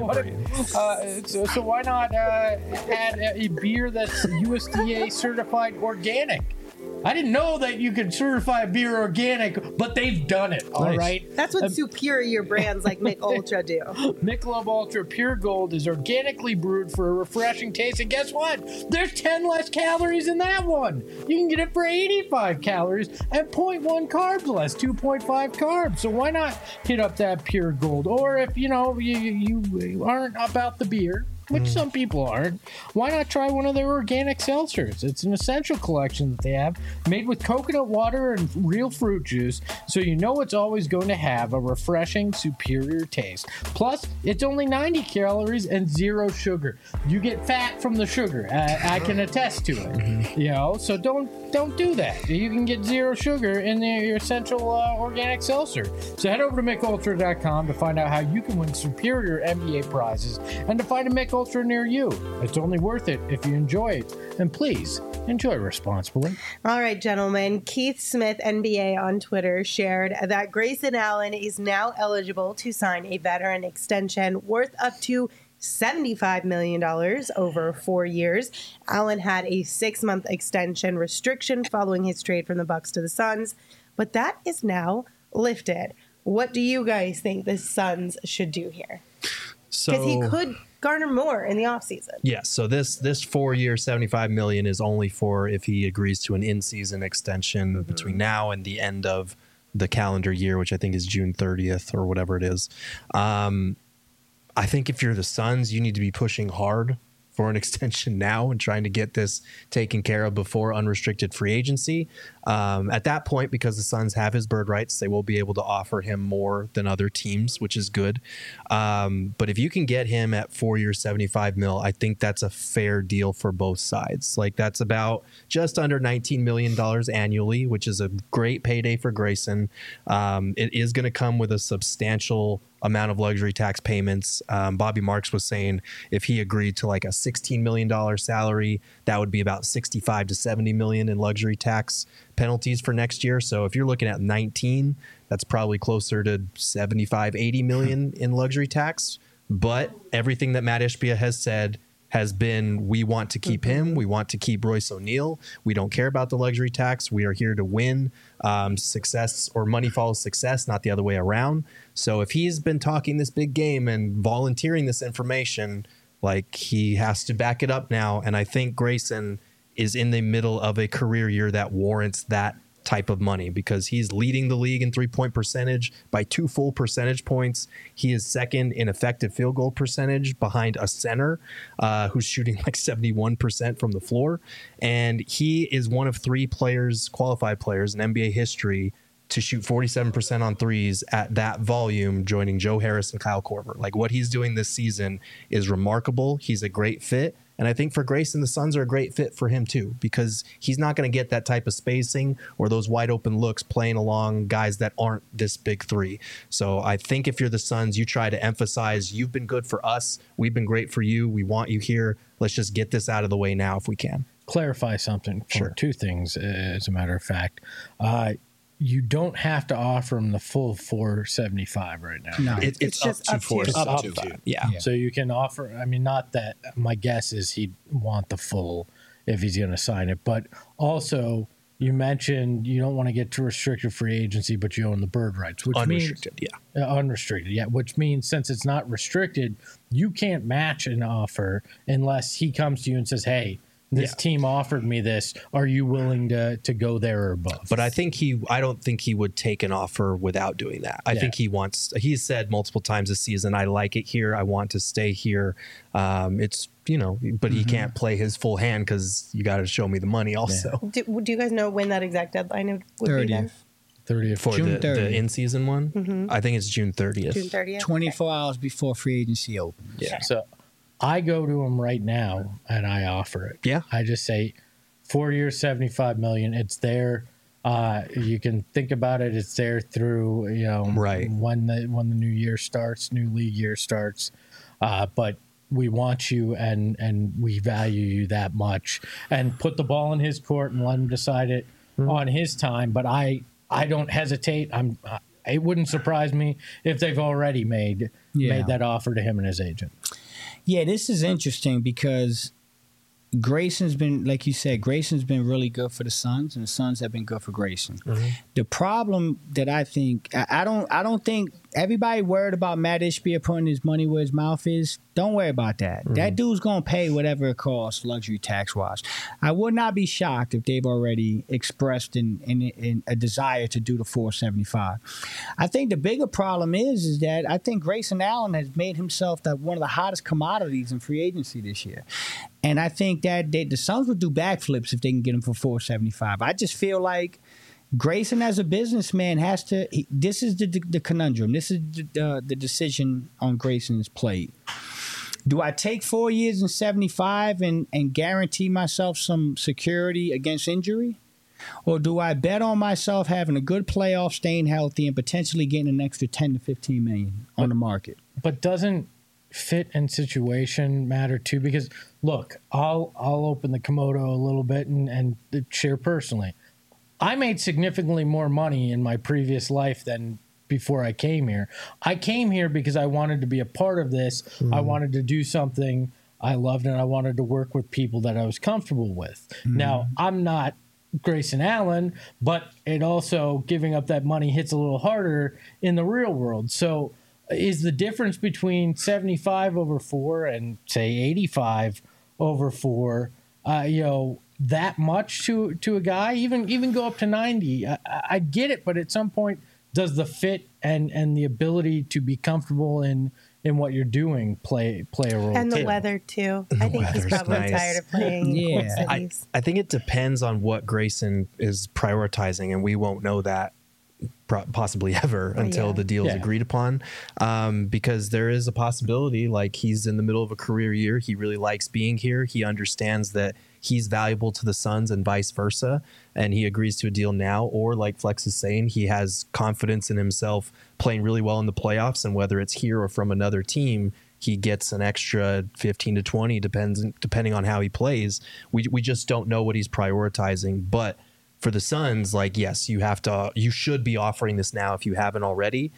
S3: So why not add a beer that's USDA certified organic? I didn't know that you could certify a beer organic, but they've done it. All right.
S1: That's what superior brands like Mick Ultra do.
S3: Michelob Ultra Pure Gold is organically brewed for a refreshing taste, and guess what? There's 10 less calories in that one. You can get it for 85 calories and 0.1 carbs less, 2.5 carbs. So why not hit up that Pure Gold? Or if you aren't about the beer, which some people aren't, why not try one of their organic seltzers? It's an essential collection that they have, made with coconut water and real fruit juice, so you know it's always going to have a refreshing, superior taste. Plus, it's only 90 calories and 0 sugar. You get fat from the sugar. I can attest to it. So don't do that. You can get 0 sugar in your essential organic seltzer. So head over to MickUltra.com to find out how you can win superior NBA prizes and to find a Mick Ultra near you. It's only worth it if you enjoy it. And please, enjoy responsibly.
S1: All right, gentlemen. Keith Smith, NBA on Twitter, shared that Grayson Allen is now eligible to sign a veteran extension worth up to $75 million over 4 years. Allen had a 6-month extension restriction following his trade from the Bucks to the Suns, but that is now lifted. What do you guys think the Suns should do here?
S2: So
S1: Because he could garner more in the offseason.
S2: Yeah, so this 4-year $75 million is only for if he agrees to an in-season extension between now and the end of the calendar year, which I think is June 30th or whatever it is. I think if you're the Suns, you need to be pushing hard for an extension now and trying to get this taken care of before unrestricted free agency. At that point, because the Suns have his bird rights, they will be able to offer him more than other teams, which is good. But if you can get him at 4 years, $75 million, I think that's a fair deal for both sides. Like that's about just under $19 million annually, which is a great payday for Grayson. It is going to come with a substantial amount of luxury tax payments. Bobby Marks was saying if he agreed to like a $16 million salary, that would be about $65 to $70 million in luxury tax penalties for next year. So if you're looking at 19, that's probably closer to 75, 80 million in luxury tax. But everything that Matt Ishbia has said has been, we want to keep him. We want to keep Royce O'Neal. We don't care about the luxury tax. We are here to win. Success or money follows success, not the other way around. So if he's been talking this big game and volunteering this information, like he has to back it up now. And I think Grayson is in the middle of a career year that warrants that type of money because he's leading the league in 3-point percentage by 2 full percentage points. He is second in effective field goal percentage behind a center who's shooting like 71% from the floor. And he is one of 3 players, qualified players in NBA history to shoot 47% on threes at that volume, joining Joe Harris and Kyle Korver. Like what he's doing this season is remarkable. He's a great fit. And I think for Grayson, the Suns are a great fit for him too, because he's not going to get that type of spacing or those wide open looks playing along guys that aren't this big 3. So I think if you're the Suns, you try to emphasize, you've been good for us. We've been great for you. We want you here. Let's just get this out of the way now if we can.
S3: Clarify something.
S2: Sure.
S3: 2 things, as a matter of fact. You don't have to offer him the full 475 right now.
S4: No.
S1: It's just up to.
S3: Up
S2: to.
S3: to.
S2: Yeah.
S3: So you can offer, I mean, not that, my guess is he'd want the full if he's going to sign it. But also, you mentioned you don't want to get to restricted free agency, but you own the bird rights, which
S2: Unrestricted,
S3: means, unrestricted, yeah. Which means since it's not restricted, you can't match an offer unless he comes to you and says, hey, this team offered me this. Are you willing to go there or above?
S2: But I don't think he would take an offer without doing that. I think he's said multiple times this season, I like it here. I want to stay here. But he can't play his full hand because you got to show me the money also.
S1: Do you guys know when that exact deadline would be then?
S3: 30th.
S2: For
S3: June
S2: the in-season one? I think it's June 30th.
S1: June 30th?
S4: 24 hours before free agency opens.
S2: Yeah.
S3: So I go to him right now and I offer it.
S2: Yeah.
S3: I just say 4 years, $75 million. It's there. You can think about it. It's there through,
S2: right.
S3: when the new year starts, new league year starts. But we want you and we value you that much, and put the ball in his court and let him decide it on his time. But I don't hesitate. It wouldn't surprise me if they've already made that offer to him and his agent.
S4: Yeah, this is interesting because Grayson's been, like you said, Grayson's been really good for the Suns, and the Suns have been good for Grayson. Mm-hmm. The problem that I think, I don't think everybody worried about Matt Ishbia putting his money where his mouth is. Don't worry about that. Mm-hmm. That dude's going to pay whatever it costs luxury tax-wise. I would not be shocked if they've already expressed in a desire to do the 475. I think the bigger problem is that I think Grayson Allen has made himself one of the hottest commodities in free agency this year. And I think that the Suns would do backflips if they can get him for 475. I just feel like Grayson, as a businessman, has to. This is the conundrum. This is the decision on Grayson's plate. Do I take 4 years and 75 and guarantee myself some security against injury? Or do I bet on myself having a good playoff, staying healthy, and potentially getting an extra 10 to 15 million on the market?
S3: But doesn't fit and situation matter too? Because look, I'll open the Komodo a little bit and share personally. I made significantly more money in my previous life than before I came here. I came here because I wanted to be a part of this. Mm. I wanted to do something I loved, and I wanted to work with people that I was comfortable with. Mm. Now, I'm not Grayson Allen, but it also giving up that money hits a little harder in the real world. So is the difference between 75 over 4 and say 85 over 4, that much to a guy? Even go up to 90. I get it, but at some point, does the fit and the ability to be comfortable in what you're doing play a role?
S1: And the weather too. I think he's probably
S2: nice.
S1: tired of playing in cold cities.
S2: I think it depends on what Grayson is prioritizing, and we won't know that possibly ever until the deal is agreed upon, because there is a possibility, like, he's in the middle of a career year. He really likes being here. He understands that he's valuable to the Suns and vice versa, and he agrees to a deal now. Or, like Flex is saying, he has confidence in himself playing really well in the playoffs, and whether it's here or from another team, he gets an extra 15 to 20, depending on how he plays. We just don't know what he's prioritizing. But for the Suns, like, yes, you should be offering this now if you haven't already,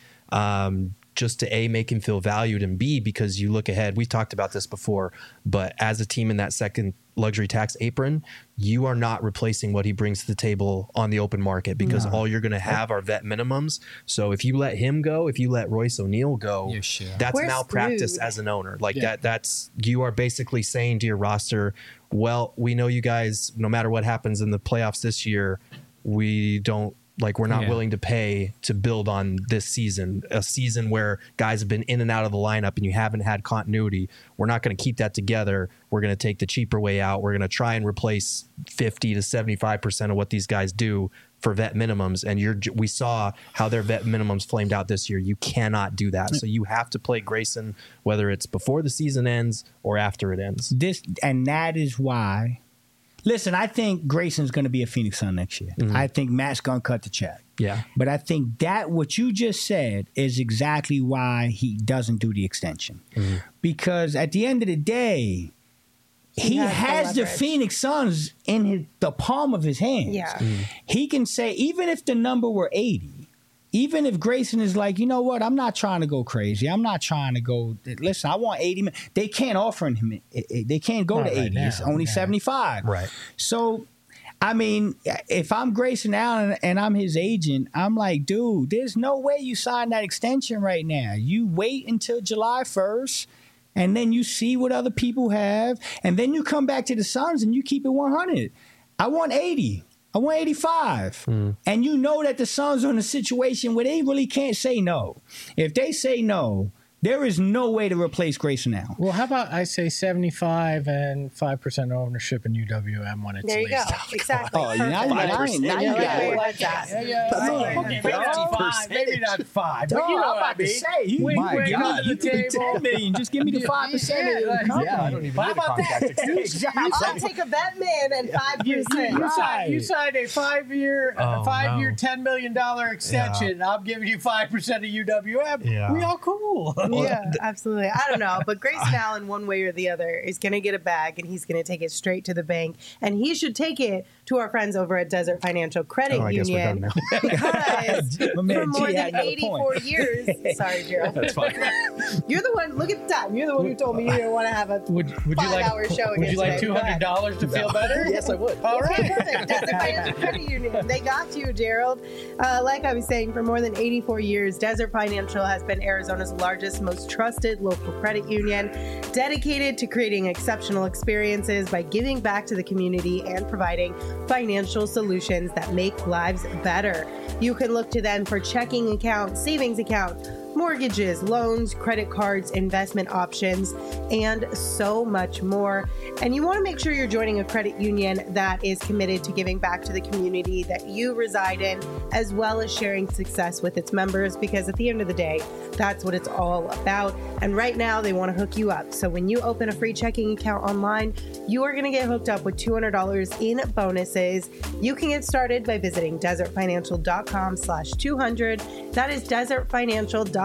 S2: just to make him feel valued, and B, because you look ahead. We've talked about this before, but as a team in that second luxury tax apron, you are not replacing what he brings to the table on the open market, because all you're going to have are vet minimums. So if you let him go, if you let Royce O'Neal go, that's
S1: We're
S2: malpractice
S1: screwed.
S2: as an owner. Like that's you are basically saying to your roster, well, we know you guys, no matter what happens in the playoffs this year, we're not willing to pay to build on this season, a season where guys have been in and out of the lineup and you haven't had continuity. We're not going to keep that together. We're going to take the cheaper way out. We're going to try and replace 50 to 75% of what these guys do for vet minimums. And we saw how their vet minimums flamed out this year. You cannot do that. So you have to play Grayson, whether it's before the season ends or after it ends.
S4: That is why. Listen, I think Grayson's going to be a Phoenix Sun next year. I think Matt's going to cut the check.
S2: Yeah.
S4: But I think that what you just said is exactly why he doesn't do the extension. Because at the end of the day, he has the Phoenix Suns in the palm of his hands.
S1: Yeah.
S4: He can say, even if the number were 80, even if Grayson is like, you know what, I'm not trying to go crazy. I'm not trying to go, listen, I want 80. They can't offer him. They can't go to 80. It's only 75.
S2: Right.
S4: So, I mean, if I'm Grayson Allen and I'm his agent, I'm like, dude, there's no way you sign that extension right now. You wait until July 1st, and then you see what other people have, and then you come back to the Suns and you keep it 100. I want 80. I want 85. And you know that the Suns are in a situation where they really can't say no. If they say no, there is no way to replace Grayson Allen.
S3: Well, how about I say 75 and 5% ownership in UWM when it's
S1: There you go.
S3: leased?
S1: Exactly.
S4: Oh, now you got it.
S3: Maybe not 5. But
S4: You
S3: you know
S4: I'm
S3: what I
S4: about to
S3: mean.
S4: say,
S3: My God.
S4: you give me 10 million. Just give me the 5% of the company.
S2: I don't even need a contract extension.
S1: I'll take a Batman and 5%.
S3: You signed a 5-year, $10 million extension. I'm giving you 5% of UWM.
S2: Yeah.
S3: We all cool.
S1: Yeah, absolutely. I don't know, but Grayson Allen, one way or the other, is going to get a bag, and he's going to take it straight to the bank, and he should take it to our friends over at Desert Financial Credit
S2: I guess we're
S1: Union
S2: done now.
S1: because
S4: My man
S1: for more
S4: G had
S1: than
S4: another
S1: 84
S4: point.
S1: years. Sorry, Gerald.
S2: That's fine.
S1: You're the one. Look at the time. You're the one who told me you didn't want to have a
S3: Would you like
S1: 5-hour show
S3: Would you like
S1: again today.
S3: $200 to feel better?
S2: Yes, I would.
S3: All
S1: Okay,
S3: right.
S1: perfect. Desert Financial Credit Union. They got you, Gerald. Like I was saying, for more than 84 years, Desert Financial has been Arizona's largest, most trusted local credit union, dedicated to creating exceptional experiences by giving back to the community and providing financial solutions that make lives better. You can look to them for checking accounts, savings accounts, mortgages, loans, credit cards, investment options, and so much more. And you want to make sure you're joining a credit union that is committed to giving back to the community that you reside in, as well as sharing success with its members, because at the end of the day, that's what it's all about. And right now, they want to hook you up. So when you open a free checking account online, you are going to get hooked up with $200 in bonuses. You can get started by visiting desertfinancial.com/200. That is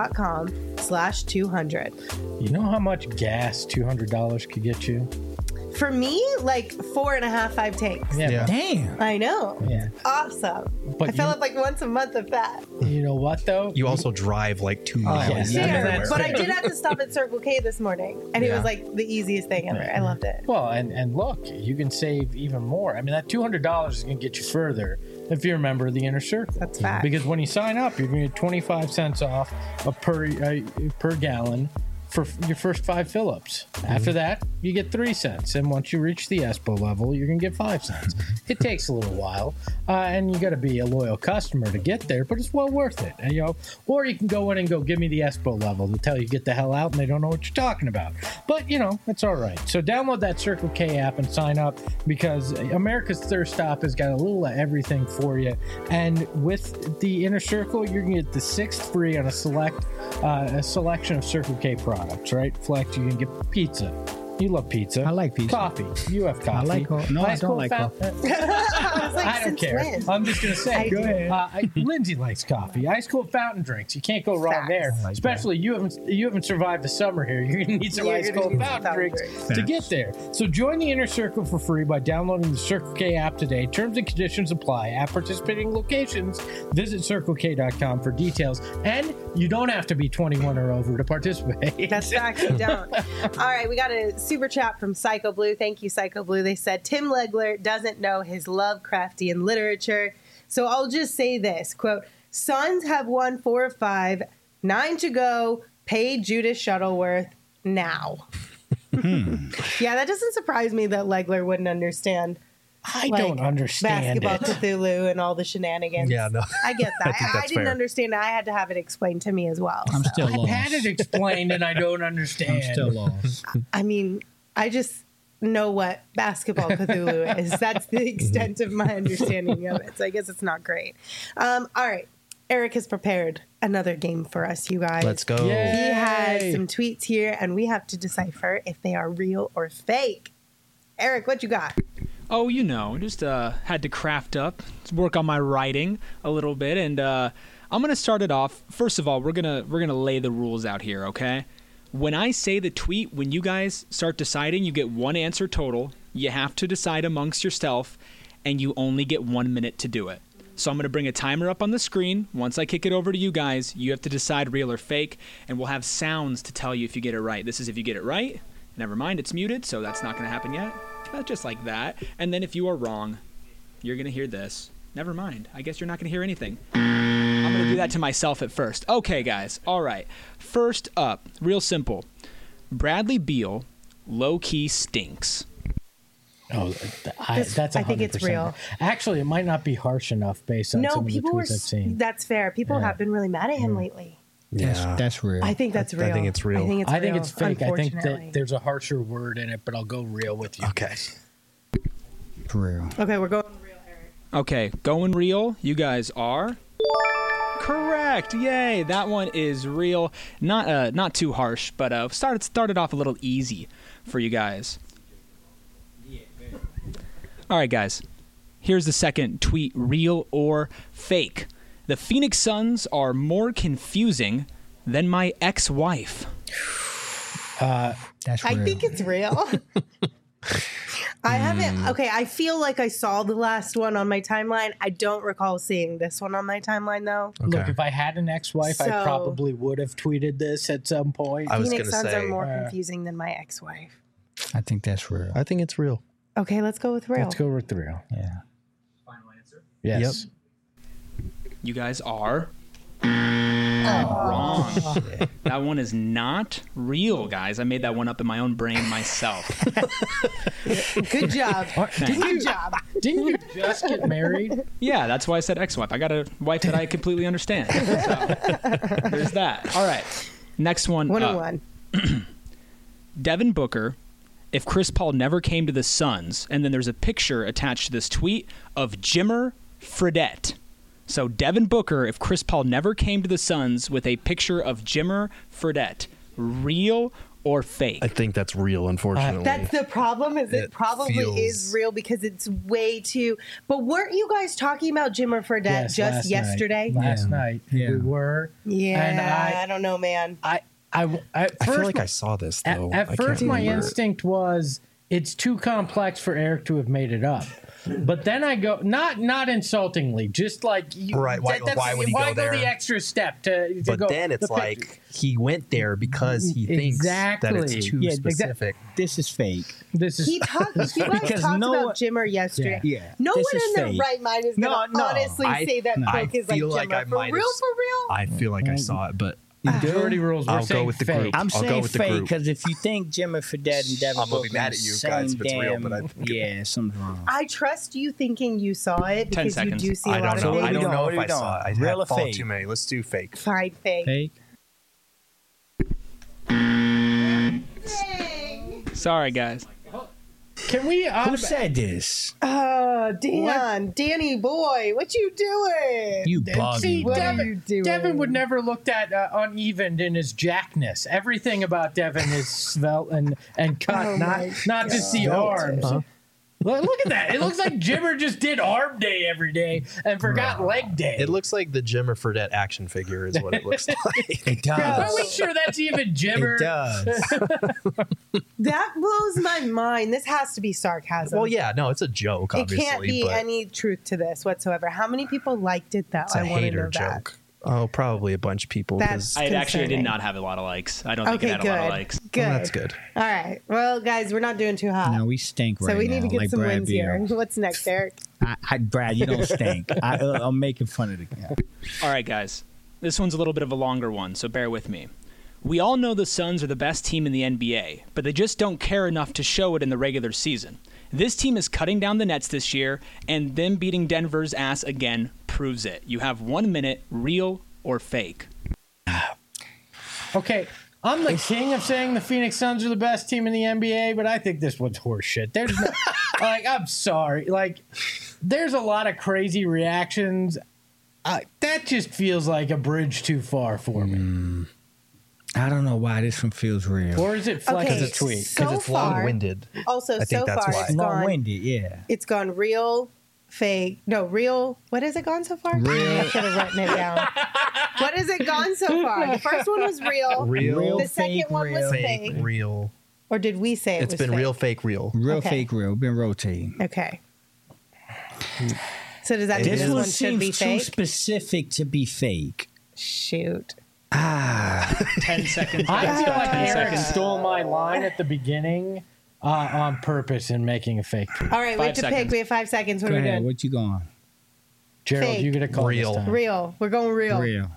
S1: desertfinancial.com/200.
S3: You know how much gas $200 could get you?
S1: For me, like 4.5, 5 tanks.
S3: Yeah.
S2: Yeah.
S4: Damn.
S1: I know.
S3: Yeah.
S1: Awesome.
S3: But
S1: I fill
S3: you-
S1: up like once a month of that.
S3: You know what though?
S2: You also drive like 2
S3: yeah.
S2: miles.
S3: Yeah,
S1: Sure,
S3: that's
S1: but I
S3: fair.
S1: did have to stop at Circle K this morning, and it
S2: Yeah.
S1: was like the easiest thing ever. I loved it.
S3: Well, and look, you can save even more. I mean, that $200 is going to get you further if you're a member of the Inner Circle.
S1: That's fact.
S3: Because when you sign up, you're going to get 25 cents off per gallon for your first 5 fill-ups. After that, you get 3 cents, and once you reach the ESPO level, you're going to get 5 cents. It takes a little while, and you got to be a loyal customer to get there, but it's well worth it. And, or you can go in and go, give me the ESPO level. They'll tell you get the hell out, and they don't know what you're talking about. But it's all right. So download that Circle K app and sign up, because America's Thirst Stop has got a little of everything for you. And with the Inner Circle, you're going to get the 6th free on a selection of Circle K products, right? Flex, you can get pizza. You love pizza.
S4: I like pizza.
S3: Coffee. You have coffee.
S4: like no, I
S3: Ice
S4: don't
S3: cold
S4: like
S3: fountain-
S1: I was like,
S3: I don't
S1: since
S3: care.
S1: when?
S3: I'm just gonna say.
S1: Go
S4: ahead.
S3: Lindsay likes coffee. Ice cold fountain drinks. You can't go wrong
S1: Facts.
S3: there.
S4: like
S3: Especially you haven't survived the summer here. You're gonna need some
S1: You're
S3: ice
S1: gonna
S3: cold
S1: need some
S3: fountain
S1: fountain
S3: drinks
S1: drinks.
S3: to get there. So join the Inner Circle for free by downloading the Circle K app today. Terms and conditions apply. At participating locations, visit CircleK.com for details. And you don't have to be 21 or over to participate.
S1: That's fact, you don't. All right, we got a super chat from Psycho Blue. Thank you, Psycho Blue. They said Tim Legler doesn't know his Lovecraftian literature. So I'll just say this, quote, Suns have won 4 of 5, 9 to go, pay Judas Shuttleworth now. Yeah, that doesn't surprise me that Legler wouldn't understand
S3: I don't understand
S1: basketball
S3: it.
S1: Cthulhu and all the shenanigans.
S2: Yeah, no.
S1: I get that.
S2: I think
S1: I
S2: that's
S1: didn't
S2: fair.
S1: understand. I had to have it explained to me as well.
S4: I'm
S1: so.
S4: still
S3: I've
S4: lost.
S3: had it explained and I don't understand.
S4: I'm still lost.
S1: I mean, I just know what basketball Cthulhu is. That's the extent of my understanding of it. So I guess it's not great. All right. Eric has prepared another game for us, you guys.
S2: Let's go.
S3: Yay.
S1: He has some tweets here, and we have to decipher if they are real or fake. Eric, what you got?
S6: Oh, just had to craft up, work on my writing a little bit, and I'm gonna start it off. First of all, we're gonna lay the rules out here, okay? When I say the tweet, when you guys start deciding, you get one answer total. You have to decide amongst yourself, and you only get 1 minute to do it. So I'm gonna bring a timer up on the screen. Once I kick it over to you guys, you have to decide real or fake, and we'll have sounds to tell you if you get it right. This is if you get it right. Never mind, it's muted, so that's not gonna happen yet. Just like that. And then if you are wrong, you're going to hear this. Never mind. I guess you're not going to hear anything. I'm going to do that to myself at first. Okay, guys. All right. First up, real simple. Bradley Beal low-key stinks.
S3: Oh, that's
S1: I think it's
S3: 100%.
S1: real.
S3: Actually, it might not be harsh enough based on
S1: No,
S3: some of the
S1: people were.
S3: tweets I've seen.
S1: That's fair. People
S3: Yeah.
S1: have been really mad at him lately.
S2: Yeah.
S4: That's real.
S1: I think that's
S2: I
S1: real.
S2: think it's real.
S1: I think it's
S3: I think
S1: real,
S3: it's fake. I think
S1: unfortunately.
S3: that there's a harsher word in it, but I'll go real with you.
S2: Okay.
S4: For real.
S1: Okay, we're going real, Eric.
S6: Okay, going real. You guys are correct. Yay! That one is real. Not too harsh, but started off a little easy for you guys. All right, guys. Here's the second tweet: real or fake? The Phoenix Suns are more confusing than my ex-wife.
S4: That's real.
S1: I think it's real. I haven't. Okay, I feel like I saw the last one on my timeline. I don't recall seeing this one on my timeline, though.
S3: Look,
S2: Okay.
S3: if I had an ex-wife, I
S1: So-
S3: probably would have tweeted this at some point.
S2: I was
S1: Phoenix
S2: gonna
S1: Suns
S2: say-
S1: are more confusing than my ex-wife.
S4: I think that's real.
S2: I think it's real.
S1: Okay, let's go with real.
S3: Let's go with real.
S4: Yeah.
S6: Final answer.
S3: Yes.
S6: You guys are wrong. That one is not real, guys. I made that one up in my own brain myself.
S1: Good job. Good job.
S3: Didn't you just get married?
S6: Yeah, that's why I said ex-wife. I got a wife that I completely understand. So, there's that. All right. Next one.
S1: 101.
S6: Devin Booker, if Chris Paul never came to the Suns, and then there's a picture attached to this tweet of Jimmer Fredette. So Devin Booker, if Chris Paul never came to the Suns with a picture of Jimmer Fredette, real or fake?
S2: I think that's real, unfortunately.
S1: That's the problem. Is it
S2: It
S1: probably
S2: feels-
S1: is real because it's way too. But weren't you guys talking about Jimmer Fredette
S3: Yes,
S1: just
S3: last
S1: yesterday?
S3: Night. Last night.
S4: Yeah.
S3: We were.
S1: Yeah,
S3: And
S1: I don't know, man.
S3: at
S2: I
S3: first,
S2: feel like I saw this, though.
S3: At
S2: I
S3: first,
S2: can't
S3: my
S2: remember.
S3: instinct was it's too complex for Eric to have made it up. But then I go, not insultingly, just like
S2: Right, why would he
S3: why
S2: go there?
S3: the extra step to
S2: But
S3: go?
S2: then it's
S3: the
S2: like he went there because he thinks that
S3: Exactly.
S2: it's too
S4: Yeah,
S2: specific.
S4: This is fake.
S3: This is
S1: You guys
S4: Because
S1: talked
S4: no
S1: about
S4: one-
S1: Jimmer yesterday.
S4: Yeah.
S1: No
S4: This
S1: one
S4: is
S1: in their
S4: fake.
S1: right mind is going to
S4: No,
S1: honestly
S2: I-
S1: say that
S2: I
S1: book is like
S2: feel like
S1: Jimmer.
S2: I
S1: For
S2: might
S1: real,
S2: have-
S1: for real?
S2: I feel like I saw it, but
S3: majority rules. We're
S2: I'll go
S3: saying
S2: with the
S3: fake.
S2: group.
S4: I'm
S2: I'll go
S4: saying
S2: with the
S4: fake
S2: group.
S4: because if you think Jimmy Fredette and Devin
S2: I'm gonna be
S4: Booker
S2: mad
S4: are
S2: at
S4: the
S2: you
S4: same
S2: guys if it's real,
S4: damn-
S2: but I think
S4: yeah, something's wrong.
S1: I trust you thinking you saw it
S6: 10
S1: because you
S6: seconds.
S1: do see a
S2: I
S1: lot
S2: don't know.
S1: of
S2: I
S1: things.
S2: don't know
S4: What
S2: if
S4: are
S2: I
S4: we
S2: saw it. I
S4: doing? Real or
S2: had followed
S4: fake?
S2: too many. Let's do fake.
S1: Fine, fake.
S4: Fake.
S6: Sorry, guys.
S3: Can we?
S4: Who said this?
S1: Danny boy, what you doing?
S4: You
S3: See,
S4: bugging.
S1: What are
S3: Devin,
S1: you doing?
S3: Devin would never looked at unevened in his jackness. Everything about Devin is svelte and cut,
S1: Oh my
S3: not just the arms. Look at that! It looks like Jimmer just did arm day every day and forgot leg day.
S2: It looks like the Jimmer Fredette action figure is what it looks like.
S4: It
S3: Are
S4: does.
S3: we sure that's even Jimmer?
S4: It does.
S1: That blows my mind. This has to be sarcasm.
S2: Well, yeah, no, it's a joke,
S1: It
S2: obviously.
S1: can't be
S2: but
S1: any truth to this whatsoever. How many people liked it, though?
S2: it's a
S1: I want to know
S2: hater joke. Oh, probably a bunch of people.
S1: That's-
S2: 'cause-
S6: I actually did
S1: Concerning.
S6: not have a lot of likes. I don't think
S1: Okay,
S6: it had
S1: good.
S6: a lot of likes.
S1: Good.
S2: Well, that's good.
S1: All right. Well, guys, we're not doing too hot.
S4: No, we stink right
S1: so we need to
S4: now,
S1: get
S4: like
S1: some
S4: Brad
S1: wins here.
S4: Beal.
S1: What's next, Eric?
S4: Brad, you don't stink. I'm making fun of the guy.
S6: All right, guys. This one's a little bit of a longer one, so bear with me. We all know the Suns are the best team in the NBA, but they just don't care enough to show it in the regular season. This team is cutting down the nets this year, and them beating Denver's ass again proves it. You have 1 minute, real or fake.
S3: Okay, I'm the king of saying the Phoenix Suns are the best team in the NBA, but I think this one's horseshit. There's no, like, I'm sorry. Like, there's a lot of crazy reactions. That just feels like a bridge too far for me.
S4: I don't know why this one feels real.
S3: Or is it flex
S1: Okay,
S3: a tweet?
S1: so
S2: Because it's
S1: far-
S2: long-winded.
S1: Also,
S2: I think
S1: so
S2: that's
S1: far,
S2: why.
S1: it's gone.
S4: Long-winded, yeah.
S1: It's gone real, fake. No, real. What has it gone so far?
S4: Real.
S1: I should have written it down. What has it gone so far? The first one was real.
S2: Real,
S1: The second
S4: fake,
S1: one was
S4: real.
S1: fake.
S2: real.
S1: Or did we say it
S2: It's
S1: was
S2: been
S1: fake?
S2: real, fake, real.
S4: Real,
S1: Okay.
S4: fake, real. Been rotating.
S1: Okay. So does that mean
S4: This
S1: this
S4: one
S1: one should be
S4: seems too
S1: fake?
S4: specific to be fake.
S1: Shoot.
S6: 10 seconds.
S3: I
S6: guys.
S3: feel like
S6: 10
S3: Eric
S6: seconds.
S3: stole my line at the beginning on purpose in making a fake tweet.
S1: All right, we
S6: 5
S1: have to pick.
S6: seconds.
S1: We have 5 seconds. What
S4: Go
S1: are we
S4: ahead.
S1: doing?
S4: What you going?
S3: Gerald,
S1: Fake.
S3: you get a call
S2: Real.
S3: this time.
S1: Real. We're going real.
S4: Real.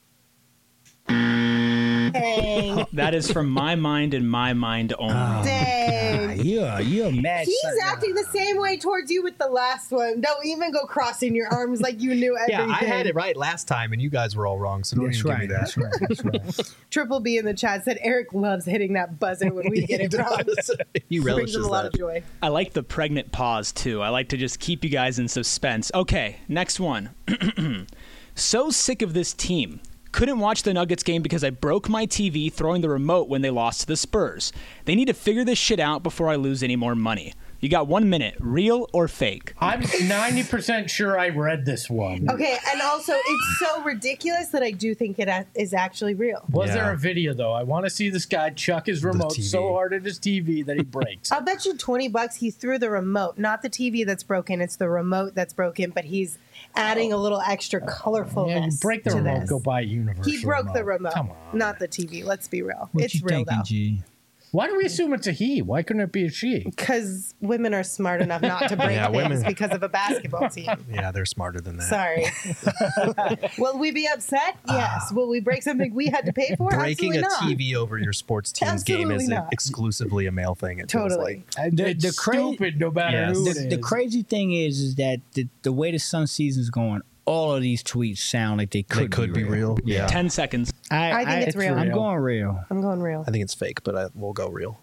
S1: Dang.
S6: That is from my mind and my mind only.
S1: Dang.
S4: You're mad.
S1: He's
S4: son.
S1: acting the same way towards you with the last one. Don't even go crossing your arms like you knew everything.
S2: Yeah, I had it right last time, and you guys were all wrong, so don't
S4: That's
S2: even
S4: right.
S2: give me that.
S4: That's right. That's right.
S1: Triple B in the chat said Eric loves hitting that buzzer when we get it wrong.
S2: He
S1: Brings
S2: relishes
S1: him a lot of
S2: that.
S1: joy.
S6: I like the pregnant pause too. I like to just keep you guys in suspense. Okay, next one. So sick of this team. Couldn't watch the Nuggets game because I broke my TV throwing the remote when they lost to the Spurs. They need to figure this shit out before I lose any more money. You got 1 minute, real or fake?
S3: I'm 90% sure I read this one.
S1: Okay, and also it's so ridiculous that I do think it is actually real.
S3: Was
S2: Yeah.
S3: there a video though? I want to see this guy chuck his remote
S2: TV.
S3: so hard at his TV that he breaks.
S1: I'll bet you $20 he threw the remote, not the TV that's broken. It's the remote that's broken, but he's adding a little extra colorfulness.
S3: Yeah, you break the
S1: to
S3: remote,
S1: this.
S3: go buy a universal.
S1: He broke the remote,
S3: Come on.
S1: not the TV. Let's be real.
S4: What
S1: It's
S4: you
S1: real
S4: thinking,
S1: though.
S4: G?
S3: Why do we assume it's a he? Why couldn't it be a she?
S1: Because women are smart enough not to break
S2: Yeah,
S1: things
S2: women-
S1: because of a basketball team.
S2: Yeah, they're smarter than that.
S1: Sorry. Will we be upset? Yes. Will we break something we had to pay for?
S2: Breaking
S1: Absolutely
S2: a
S1: not.
S2: TV over your sports team's game
S1: Absolutely
S2: is
S1: not.
S2: exclusively a male thing. It feels
S1: Totally.
S2: like.
S3: It's
S4: the cra-
S3: stupid no matter
S2: Yes.
S3: who it
S4: The
S3: is.
S4: crazy thing is that the way the Sun season's going, all of these tweets sound like they could
S2: be real. Yeah,
S6: 10 seconds.
S1: I think it's real.
S4: I'm
S3: real.
S4: going real.
S1: I'm going real.
S2: I think it's fake, but we'll go real.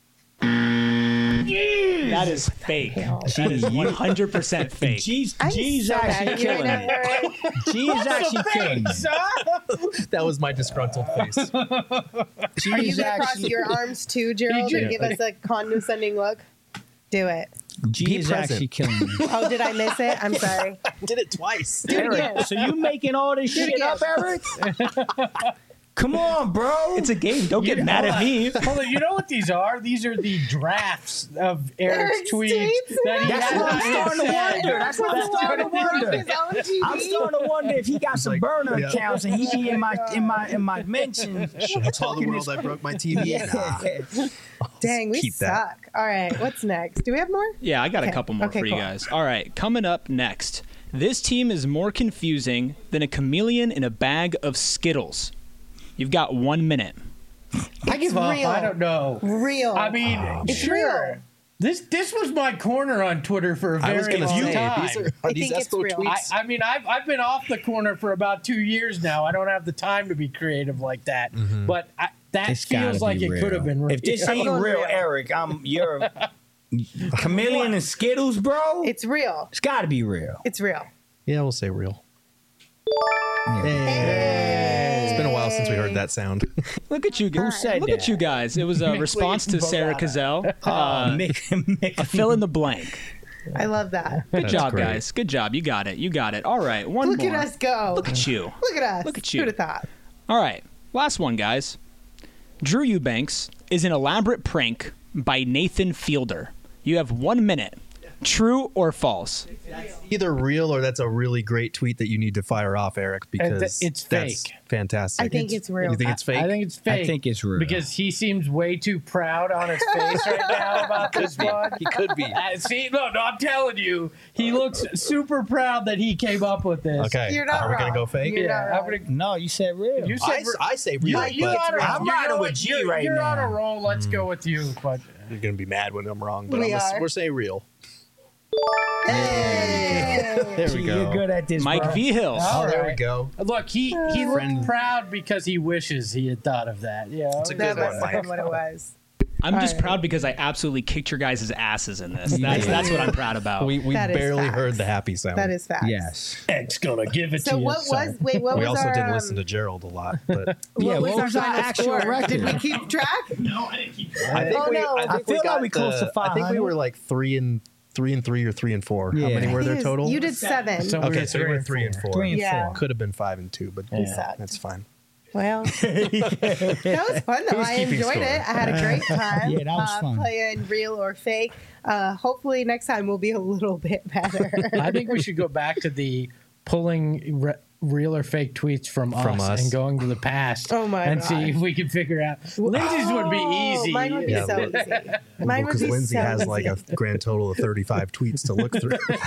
S6: That is fake. That is 100% fake.
S4: G's
S1: I'm
S4: G's
S1: so
S4: actually
S1: mad at you right
S4: killing
S1: now,
S4: it.
S1: Eric.
S4: G's actually killing it.
S2: That was my disgruntled face.
S1: Are you
S4: G's
S1: going to cross
S4: actually,
S1: your arms too, Gerald,
S3: He
S1: and
S3: did.
S1: give us a condescending look? Do it.
S4: G is
S2: present.
S4: actually killing it.
S1: Oh, did I miss it? I'm sorry.
S2: Did it twice.
S1: Do it again.
S4: So you making all this
S1: Do it
S4: shit up,
S1: again.
S4: Eric? Come on, bro.
S6: It's a game. Don't get mad at me.
S3: Hold on, you know what these are? These are the drafts of Eric's tweets. That he
S4: That's
S3: had
S4: what I'm
S3: on
S4: starting to
S3: his
S4: wonder.
S3: head.
S4: That's what I'm starting to wonder. I'm starting to wonder if he got some burner accounts and he be in my mentions.
S2: Should I tell the world I broke my TV? Nah.
S1: Dang, we
S2: Keep that.
S1: suck. All right, what's next? Do we have more?
S6: Yeah, I got a
S1: Okay.
S6: couple more
S1: Okay,
S6: for you
S1: cool.
S6: guys. All right, coming up next. This team is more confusing than a chameleon in a bag of Skittles. You've got 1 minute.
S3: I give up.
S1: real.
S3: I don't know.
S1: Real.
S3: I mean,
S1: It's
S3: sure.
S1: real.
S3: This was my corner on Twitter for a
S2: I was
S3: very
S2: going to
S3: long
S2: say,
S3: time.
S2: these are
S1: I
S2: these
S1: think it's
S2: Espo
S1: real.
S2: tweets.
S3: I mean, I've been off the corner for about 2 years now. I don't have the time to be creative like that. But that
S4: It's gotta
S3: feels like
S4: be
S3: it
S4: real.
S3: could have been real.
S4: If this ain't
S1: going
S4: real,
S1: real.
S4: Eric, you're chameleon and Skittles, bro.
S1: It's real.
S4: It's got to be real.
S1: It's real.
S2: Yeah, we'll say real. It's been a while since we heard that sound.
S6: Look at you guys.
S4: said
S6: Look
S4: that?
S6: at you guys. It was a response to Sarah Cazell. A fill in the blank.
S1: I love that.
S6: Good
S2: That's
S6: job,
S2: great.
S6: guys. Good job. You got it. You got it. All right, one
S1: Look
S6: more.
S1: at us go.
S6: Look at you.
S1: Look at us.
S6: Look at you.
S1: Who'd have thought?
S6: All right, last one, guys. Drew Eubanks is an elaborate prank by Nathan Fielder. You have 1 minute. True or false?
S2: Either real or that's a really great tweet that you need to fire off, Eric, because
S3: it's
S2: that's
S3: fake.
S2: fantastic.
S1: I think it's real.
S2: You think it's fake?
S3: I think it's fake.
S4: I think it's real.
S3: Because he seems way too proud on his face right now about this one.
S2: He could be.
S3: See, no, I'm telling you, he looks super proud that he came up with this.
S2: Okay.
S1: You're not
S2: Are we
S1: wrong.
S2: going to go fake?
S1: You're
S3: Yeah,
S1: not
S3: I'm
S1: wrong.
S3: gonna.
S4: No, you said real.
S3: You said
S2: I say real,
S3: you're
S2: but
S3: on a,
S4: I'm
S3: you
S4: riding
S3: know
S4: with
S3: what?
S4: G
S3: You're,
S4: right
S3: you're on a
S4: now.
S3: roll. Let's go with you. But
S2: you're going to be mad when I'm wrong. But
S1: We
S2: I'm
S1: are.
S2: we're saying real.
S1: Hey.
S2: There we go.
S4: You're good at this,
S6: Mike
S4: bro.
S6: V. Hills.
S3: All
S2: Oh, there we
S3: right.
S2: go.
S3: look, he looked
S2: Friend.
S3: proud because he wishes he had thought of that. Yeah,
S2: It's a
S1: That
S2: good
S1: must
S2: one,
S1: have been
S2: Mike.
S1: what it was.
S6: I'm just
S1: All right.
S6: proud because I absolutely kicked your guys' asses in this. That's what I'm proud about.
S2: We
S1: That is
S2: barely
S1: facts.
S2: heard the happy sound.
S1: That is facts.
S4: Yes.
S3: X gonna give it
S1: So
S3: to you.
S1: what was? Wait, what
S2: We
S1: was
S2: also
S1: our?
S2: didn't listen to Gerald a lot, but
S4: Yeah, what was our
S1: final
S4: actual
S1: score?
S4: record?
S1: Did we keep track?
S2: I think
S1: Oh,
S2: we.
S1: no.
S2: I think
S4: I feel like
S2: got
S4: we close to
S2: I think we
S4: 500.
S2: were like 3 and 3 or 3 and 4. How
S4: Yeah.
S2: many were there
S1: Yes,
S2: total?
S1: You did 7.
S3: So
S2: Okay,
S3: were
S2: so we were 3 and 4.
S4: 3 and
S1: Yeah.
S4: 4.
S2: Could have been 5 and 2, but
S1: sucked.
S2: that's fine.
S1: Well, that was fun though.
S2: Who's
S1: I
S2: keeping
S1: enjoyed
S2: score?
S1: it. I had a great time.
S4: Yeah, that was fun.
S1: Playing real or fake. Hopefully next time we'll be a little bit better.
S3: I think we should go back to the pulling real or fake tweets from us and going to the past.
S1: Oh my
S3: and
S1: God.
S3: see if we can figure out. Lindsay's would be
S1: Oh,
S3: easy.
S1: Mine would be
S2: Yeah,
S1: so
S2: well-
S1: easy. Mine would
S2: Because
S1: be
S2: Lindsay
S1: so
S2: has
S1: easy.
S2: like a grand total of 35 tweets to look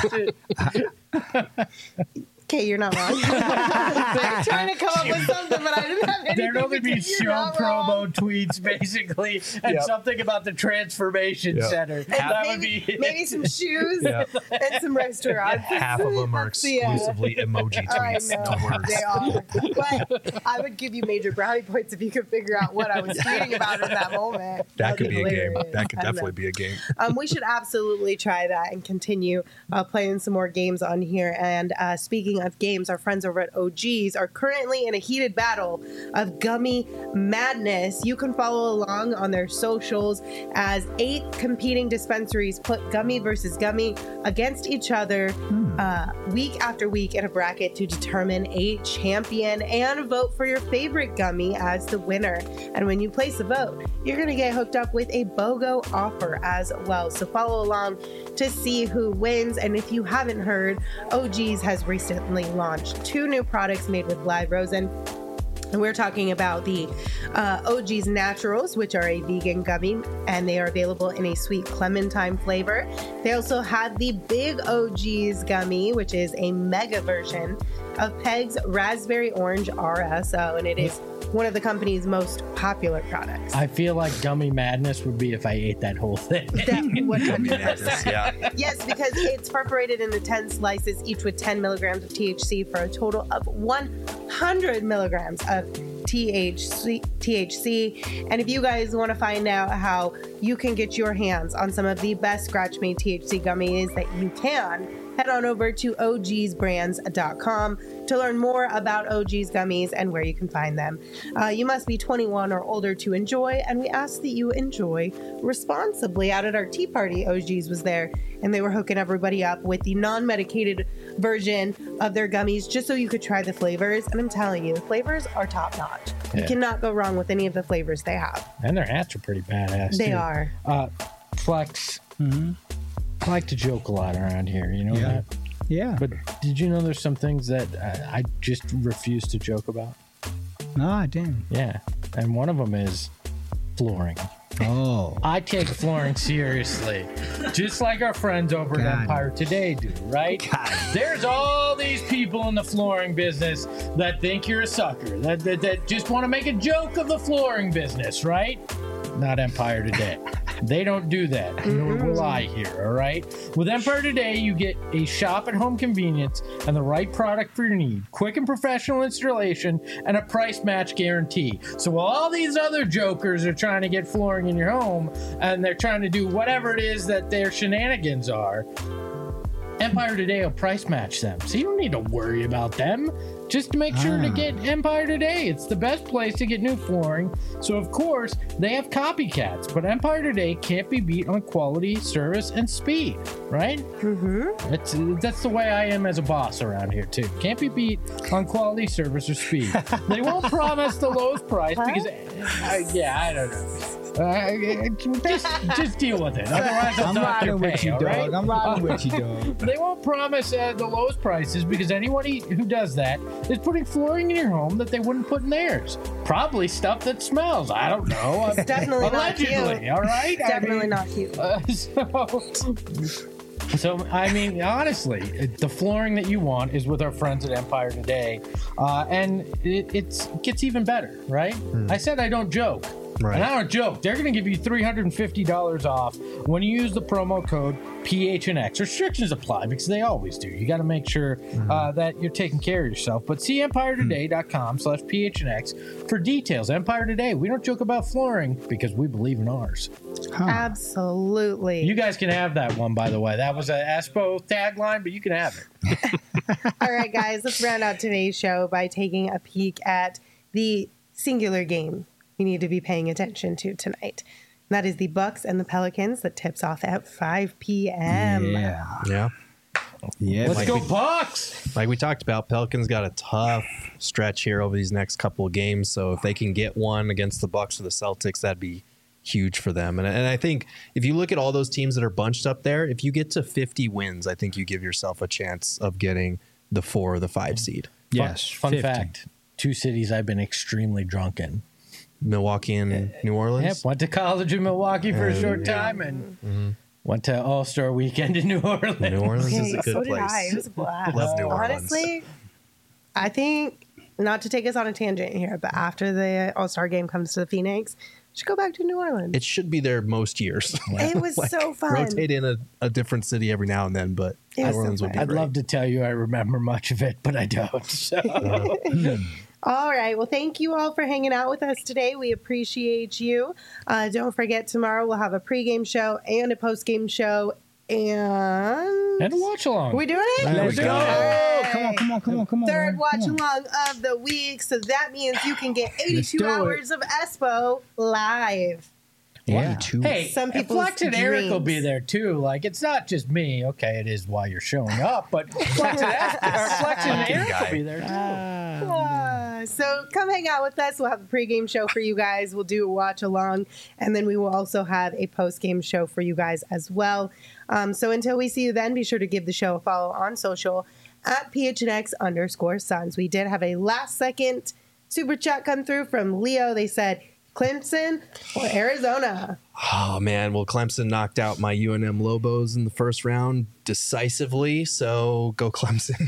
S2: through.
S1: Okay, you're not wrong. I'm trying to come up with something, but I didn't have anything.
S3: There'd only be
S1: because you're
S3: show
S1: not
S3: promo
S1: wrong.
S3: tweets, basically, and
S2: Yep.
S3: something about the transformation
S2: Yep.
S3: center.
S1: And
S3: That would
S1: maybe,
S3: be
S1: maybe some shoes
S2: Yeah.
S1: and some restaurants.
S2: Half of them are
S1: That's the,
S2: exclusively emoji
S1: I
S2: tweets,
S1: know
S2: no words.
S1: they are, but I would give you major brownie points if you could figure out what I was tweeting about in that moment.
S2: That could
S1: would
S2: be a game.
S1: hilarious.
S2: That could
S1: I don't know.
S2: definitely be a game.
S1: We should absolutely try that and continue playing some more games on here. And speaking of games, our friends over at OGs are currently in a heated battle of gummy madness. You can follow along on their socials as 8 competing dispensaries put gummy versus gummy against each other week after week in a bracket to determine a champion and vote for your favorite gummy as the winner. And when you place a vote, you're going to get hooked up with a BOGO offer as well. So follow along to see who wins. And if you haven't heard, OGs has recently launched 2 new products made with live rosin. And we're talking about the OG's Naturals, which are a vegan gummy, and they are available in a sweet clementine flavor. They also have the Big OG's gummy, which is a mega version of Peg's Raspberry Orange RSO, and it is one of the company's most popular products.
S3: I feel like gummy madness would be if I ate that whole thing.
S1: That 100%.
S2: Yeah.
S1: Yes, because it's perforated into 10 slices, each with 10 milligrams of THC for a total of 100 milligrams of THC. And if you guys want to find out how you can get your hands on some of the best scratch-made THC gummies that you can, head on over to ogsbrands.com to learn more about OG's gummies and where you can find them. You must be 21 or older to enjoy, and we ask that you enjoy responsibly. Out at our tea party, OG's was there, and they were hooking everybody up with the non-medicated version of their gummies just so you could try the flavors. And I'm telling you, the flavors are top-notch. You cannot go wrong with any of the flavors they have.
S3: And their hats are pretty badass,
S1: They
S3: too.
S1: are.
S3: Flex, I like to joke a lot around here, you know that?
S4: Yeah.
S3: But did you know there's some things that I just refuse to joke about?
S4: No, I didn't.
S3: Yeah. And one of them is flooring.
S4: Oh.
S3: I take flooring seriously, just like our friends over at
S4: God.
S3: Empire Today do, right?
S4: God.
S3: There's all these people in the flooring business that think you're a sucker, that just want to make a joke of the flooring business, right? Not Empire Today. They don't do that, nor will I here, all right? With Empire Today, you get a shop-at-home convenience and the right product for your need, quick and professional installation, and a price match guarantee. So while all these other jokers are trying to get flooring in your home, and they're trying to do whatever it is that their shenanigans are, Empire Today will price match them. So you don't need to worry about them. Just make sure to get Empire Today. It's the best place to get new flooring. So, of course, they have copycats, but Empire Today can't be beat on quality, service, and speed, right? That's the way I am as a boss around here, too. Can't be beat on quality, service, or speed. They won't promise the lowest price because, I don't know. Just deal with it. Otherwise, I'll
S4: I'm
S3: dock your
S4: riding with
S3: pay,
S4: you,
S3: all
S4: dog.
S3: right?
S4: I'm riding with you, dog.
S3: They won't promise the lowest prices because anyone who does that is putting flooring in your home that they wouldn't put in theirs. Probably stuff that smells. I don't know.
S1: It's definitely not cute.
S3: Allegedly, all right?
S1: It's definitely not cute.
S3: So, I mean, honestly, the flooring that you want is with our friends at Empire Today. And it gets even better, right? I said I don't joke.
S2: Right.
S3: And I don't joke. They're going to give you $350 off when you use the promo code PHNX. Restrictions apply because they always do. You got to make sure that you're taking care of yourself. But see EmpireToday.com/PHNX for details. Empire Today, we don't joke about flooring because we believe in ours.
S1: Absolutely.
S3: You guys can have that one, by the way. That was an Espo tagline, but you can have it.
S1: All right, guys, let's round out today's show by taking a peek at the singular game we need to be paying attention to tonight. And that is the Bucks and the Pelicans that tips off at 5 p.m.
S2: Yeah.
S3: Let's go Bucks!
S2: Like we talked about, Pelicans got a tough stretch here over these next couple of games. So if they can get one against the Bucks or the Celtics, that'd be huge for them. And I think if you look at all those teams that are bunched up there, if you get to 50 wins, I think you give yourself a chance of getting the 4 or the 5 seed.
S4: Yes.
S3: Fun
S4: 50.
S3: fact, 2 cities I've been extremely drunk in.
S2: Milwaukee and New Orleans.
S3: Yep, went to college in Milwaukee for a short time and went to All-Star Weekend in New Orleans.
S2: New Orleans is a good
S1: so
S2: place.
S1: did I. It was a blast.
S2: Love New Orleans.
S1: Honestly, I think, not to take us on a tangent here, but after the All-Star game comes to the Phoenix, we should go back to New Orleans.
S2: It should be there most years.
S1: It was so fun.
S2: Rotate in a different city every now and then, but
S1: It
S2: New
S1: was so
S2: Orleans would be
S1: fun.
S3: I'd
S2: great.
S3: love to tell you I remember much of it, but I don't. So.
S1: All right. Well, thank you all for hanging out with us today. We appreciate you. Don't forget, tomorrow we'll have a pregame show and a postgame show. And
S3: And a watch along.
S1: Are we doing it?
S4: Let's
S2: go.
S4: go.
S1: All right.
S4: Come on.
S1: Third
S4: man.
S1: watch
S4: Come on.
S1: along of the week. So that means you can get 82
S4: do it.
S1: hours of Espo live.
S4: Yeah.
S3: Hey,
S1: Some people's
S3: Flex and Eric will
S1: dreams.
S3: be there too. Like, it's not just me. Okay, it is while you're showing up, but Flex and Eric will be there too.
S1: So come hang out with us. We'll have a pregame show for you guys. We'll do a watch along, and then we will also have a postgame show for you guys as well. So until we see you then, be sure to give the show a follow on social at PHNX_Suns. We did have a last second super chat come through from Leo. They said Clemson or Arizona.
S2: Oh man, well Clemson knocked out my UNM Lobos in the first round decisively, so go Clemson.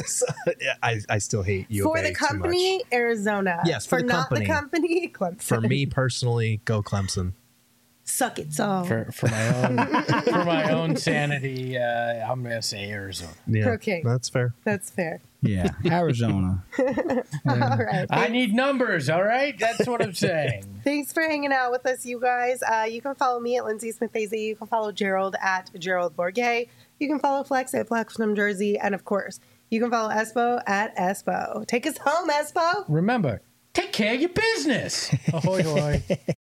S2: I still hate U of
S1: For
S2: A
S1: the
S2: too
S1: company,
S2: much.
S1: Arizona.
S2: Yes, for the
S1: not
S2: company.
S1: the company, Clemson.
S2: For me personally, go Clemson.
S1: Suck it, so.
S3: For my own sanity, I'm gonna say Arizona.
S2: Yeah,
S1: Okay.
S2: that's fair.
S1: That's fair.
S4: Yeah, Arizona.
S1: All right.
S3: I need numbers. All right, that's what I'm saying.
S1: Thanks for hanging out with us, you guys. You can follow me at Lindsay Smith AZ. You can follow Gerald at Gerald Bourget. You can follow Flex at Flex from Jersey. And of course, you can follow Espo at Espo. Take us home, Espo.
S3: Remember, take care of your business. Ahoy, hoy.